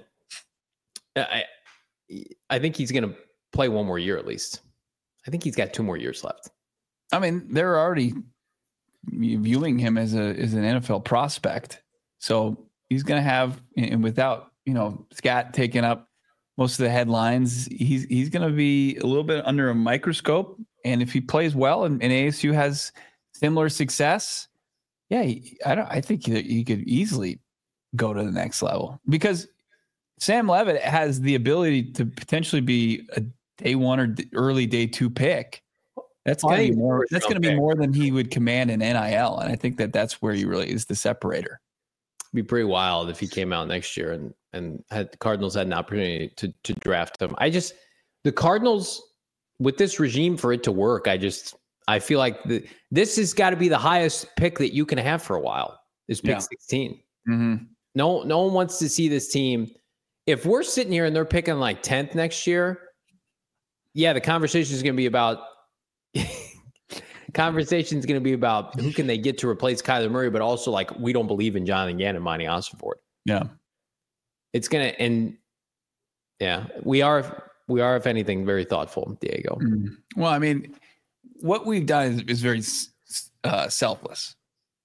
I think he's going to play 1 more year at least. I think he's got 2 more years left. I mean, they're already viewing him as an NFL prospect, so he's going to have, and without Scott taking up most of the headlines, he's going to be a little bit under a microscope. And if he plays well and ASU has similar success, I think he could easily go to the next level because Sam Levitt has the ability to potentially be a day 1 or early day 2 pick. That's going to be more. That's going to be more than he would command in NIL, and I think that's where he really is the separator. be pretty wild if he came out next year and the Cardinals had an opportunity to draft him. The Cardinals, with this regime, for it to work, I feel like this has got to be the highest pick that you can have for a while, is pick 16. Mm-hmm. No one wants to see this team. If we're sitting here and they're picking like 10th next year, yeah, the conversation is going to be about who can they get to replace Kyler Murray, but also like we don't believe in Jonathan Gannon and Monty Ossenfort. Yeah. It's going to, and yeah, we are, if anything, very thoughtful, Diego. Mm-hmm. Well, I mean, what we've done is very selfless.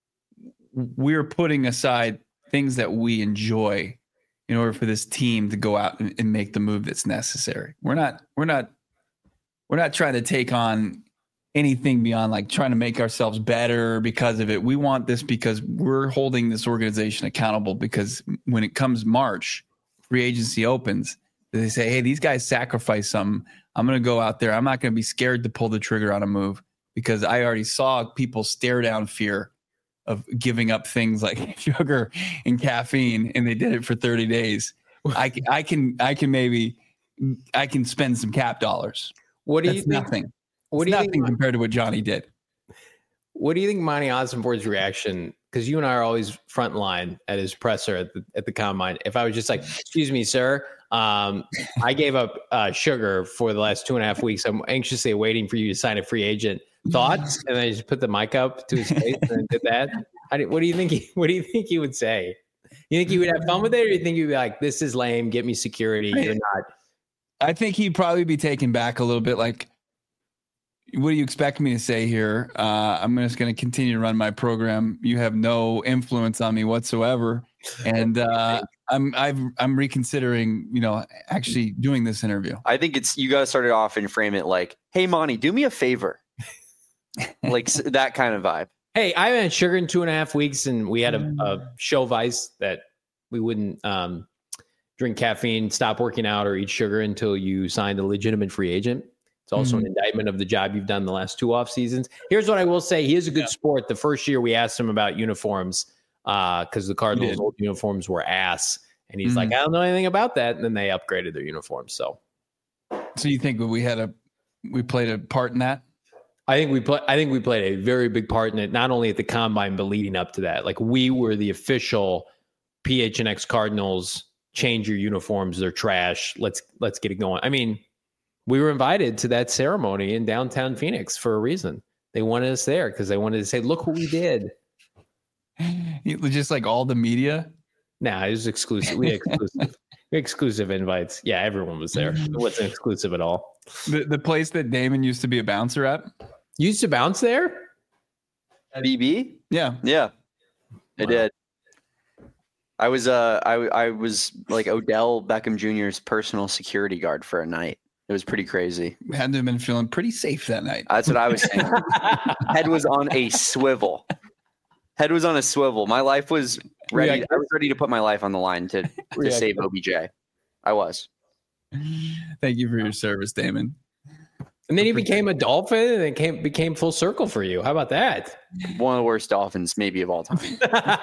We're putting aside things that we enjoy in order for this team to go out and make the move that's necessary. We're not trying to take on anything beyond like trying to make ourselves better because of it. We want this because we're holding this organization accountable, because when it comes March, free agency opens, they say, hey, these guys sacrifice something. I'm going to go out there. I'm not going to be scared to pull the trigger on a move, because I already saw people stare down fear of giving up things like sugar and caffeine, and they did it for 30 days. I can spend some cap dollars. What do you think? Nothing. What do you think compared to what Johnny did? What do you think Monty Ossenfort's reaction? Because you and I are always front line at his presser at the combine. If I was just like, excuse me, sir, I gave up sugar for the last 2.5 weeks. I'm anxiously waiting for you to sign a free agent. Thoughts? And then I just put the mic up to his face and did that. What do you think? What do you think he would say? You think he would have fun with it, or you think he'd be like, "This is lame. Get me security. You're not." I think he'd probably be taken back a little bit. Like, what do you expect me to say here? I'm just going to continue to run my program. You have no influence on me whatsoever, and I'm reconsidering, actually doing this interview. I think you got to start it off and frame it like, "Hey, Monty, do me a favor," like that kind of vibe. Hey, I haven't had sugar in 2.5 weeks, and we had a show vice that we wouldn't drink caffeine, stop working out, or eat sugar until you signed a legitimate free agent. It's also an indictment of the job you've done the last 2 off seasons. Here's what I will say. He is a good sport. The first year we asked him about uniforms because the Cardinals' old uniforms were ass. And he's like, I don't know anything about that. And then they upgraded their uniforms. So you think we played a part in that? I think we played a very big part in it, not only at the combine, but leading up to that. Like, we were the official PHNX Cardinals, change your uniforms. They're trash. Let's get it going. I mean, we were invited to that ceremony in downtown Phoenix for a reason. They wanted us there because they wanted to say, look what we did. Just like all the media? Nah, it was exclusive. We had exclusive invites. Yeah, everyone was there. It wasn't exclusive at all. The place that Damon used to be a bouncer at? You used to bounce there? At BB? Yeah. Yeah. I did. I was like Odell Beckham Jr.'s personal security guard for a night. It was pretty crazy. Had to have been feeling pretty safe that night. That's what I was saying. Head was on a swivel. My life was ready. I was ready to put my life on the line to save OBJ. I was. Thank you for your service, Damon. And then he became a Dolphin, and it became full circle for you. How about that? One of the worst Dolphins maybe of all time.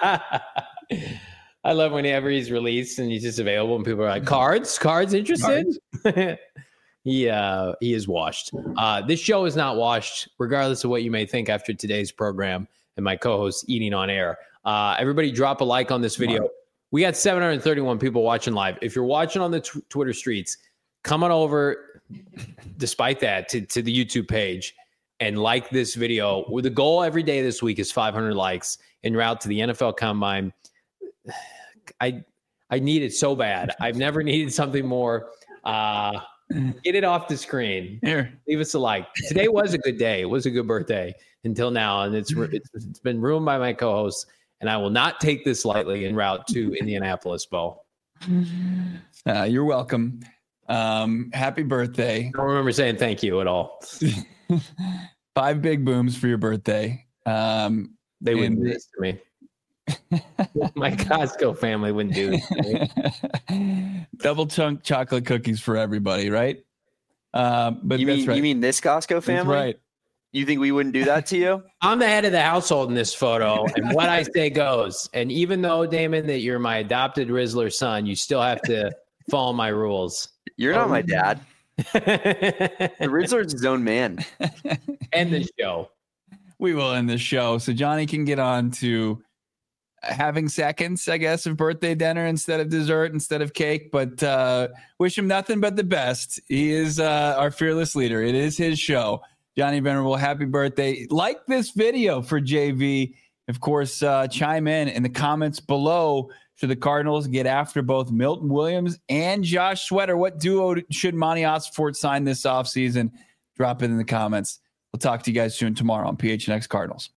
I love whenever he's released and he's just available and people are like, cards interested? He is washed. This show is not washed, regardless of what you may think after today's program and my co-host eating on air. Everybody drop a like on this video. We got 731 people watching live. If you're watching on the Twitter streets, come on over, despite that, to the YouTube page and like this video. The goal every day this week is 500 likes en route to the NFL Combine. I need it so bad. I've never needed something more. Get it off the screen. Here, leave us a like. Today was a good day. It was a good birthday until now, and it's been ruined by my co-hosts. And I will not take this lightly en route to Indianapolis, Bo. You're welcome. Happy birthday. I don't remember saying thank you at all. 5 big booms for your birthday. They wouldn't do this to me. My Costco family wouldn't do this to me. Double chunk chocolate cookies for everybody, right? But you mean this Costco family? That's right. You think we wouldn't do that to you? I'm the head of the household in this photo, and what I say goes. And even though, Damon, that you're my adopted Rizzler son, you still have to follow my rules. You're not my dad. The Rizzler's his own man. End the show. We will end the show so Johnny can get on to having seconds, I guess, of birthday dinner instead of dessert, instead of cake. But wish him nothing but the best. He is our fearless leader. It is his show. Johnny Venerable, happy birthday. Like this video for JV. Of course, chime in the comments below. Should the Cardinals get after both Milton Williams and Josh Sweater? What duo should Monty Ossenfort sign this offseason? Drop it in the comments. We'll talk to you guys soon tomorrow on PHNX Cardinals.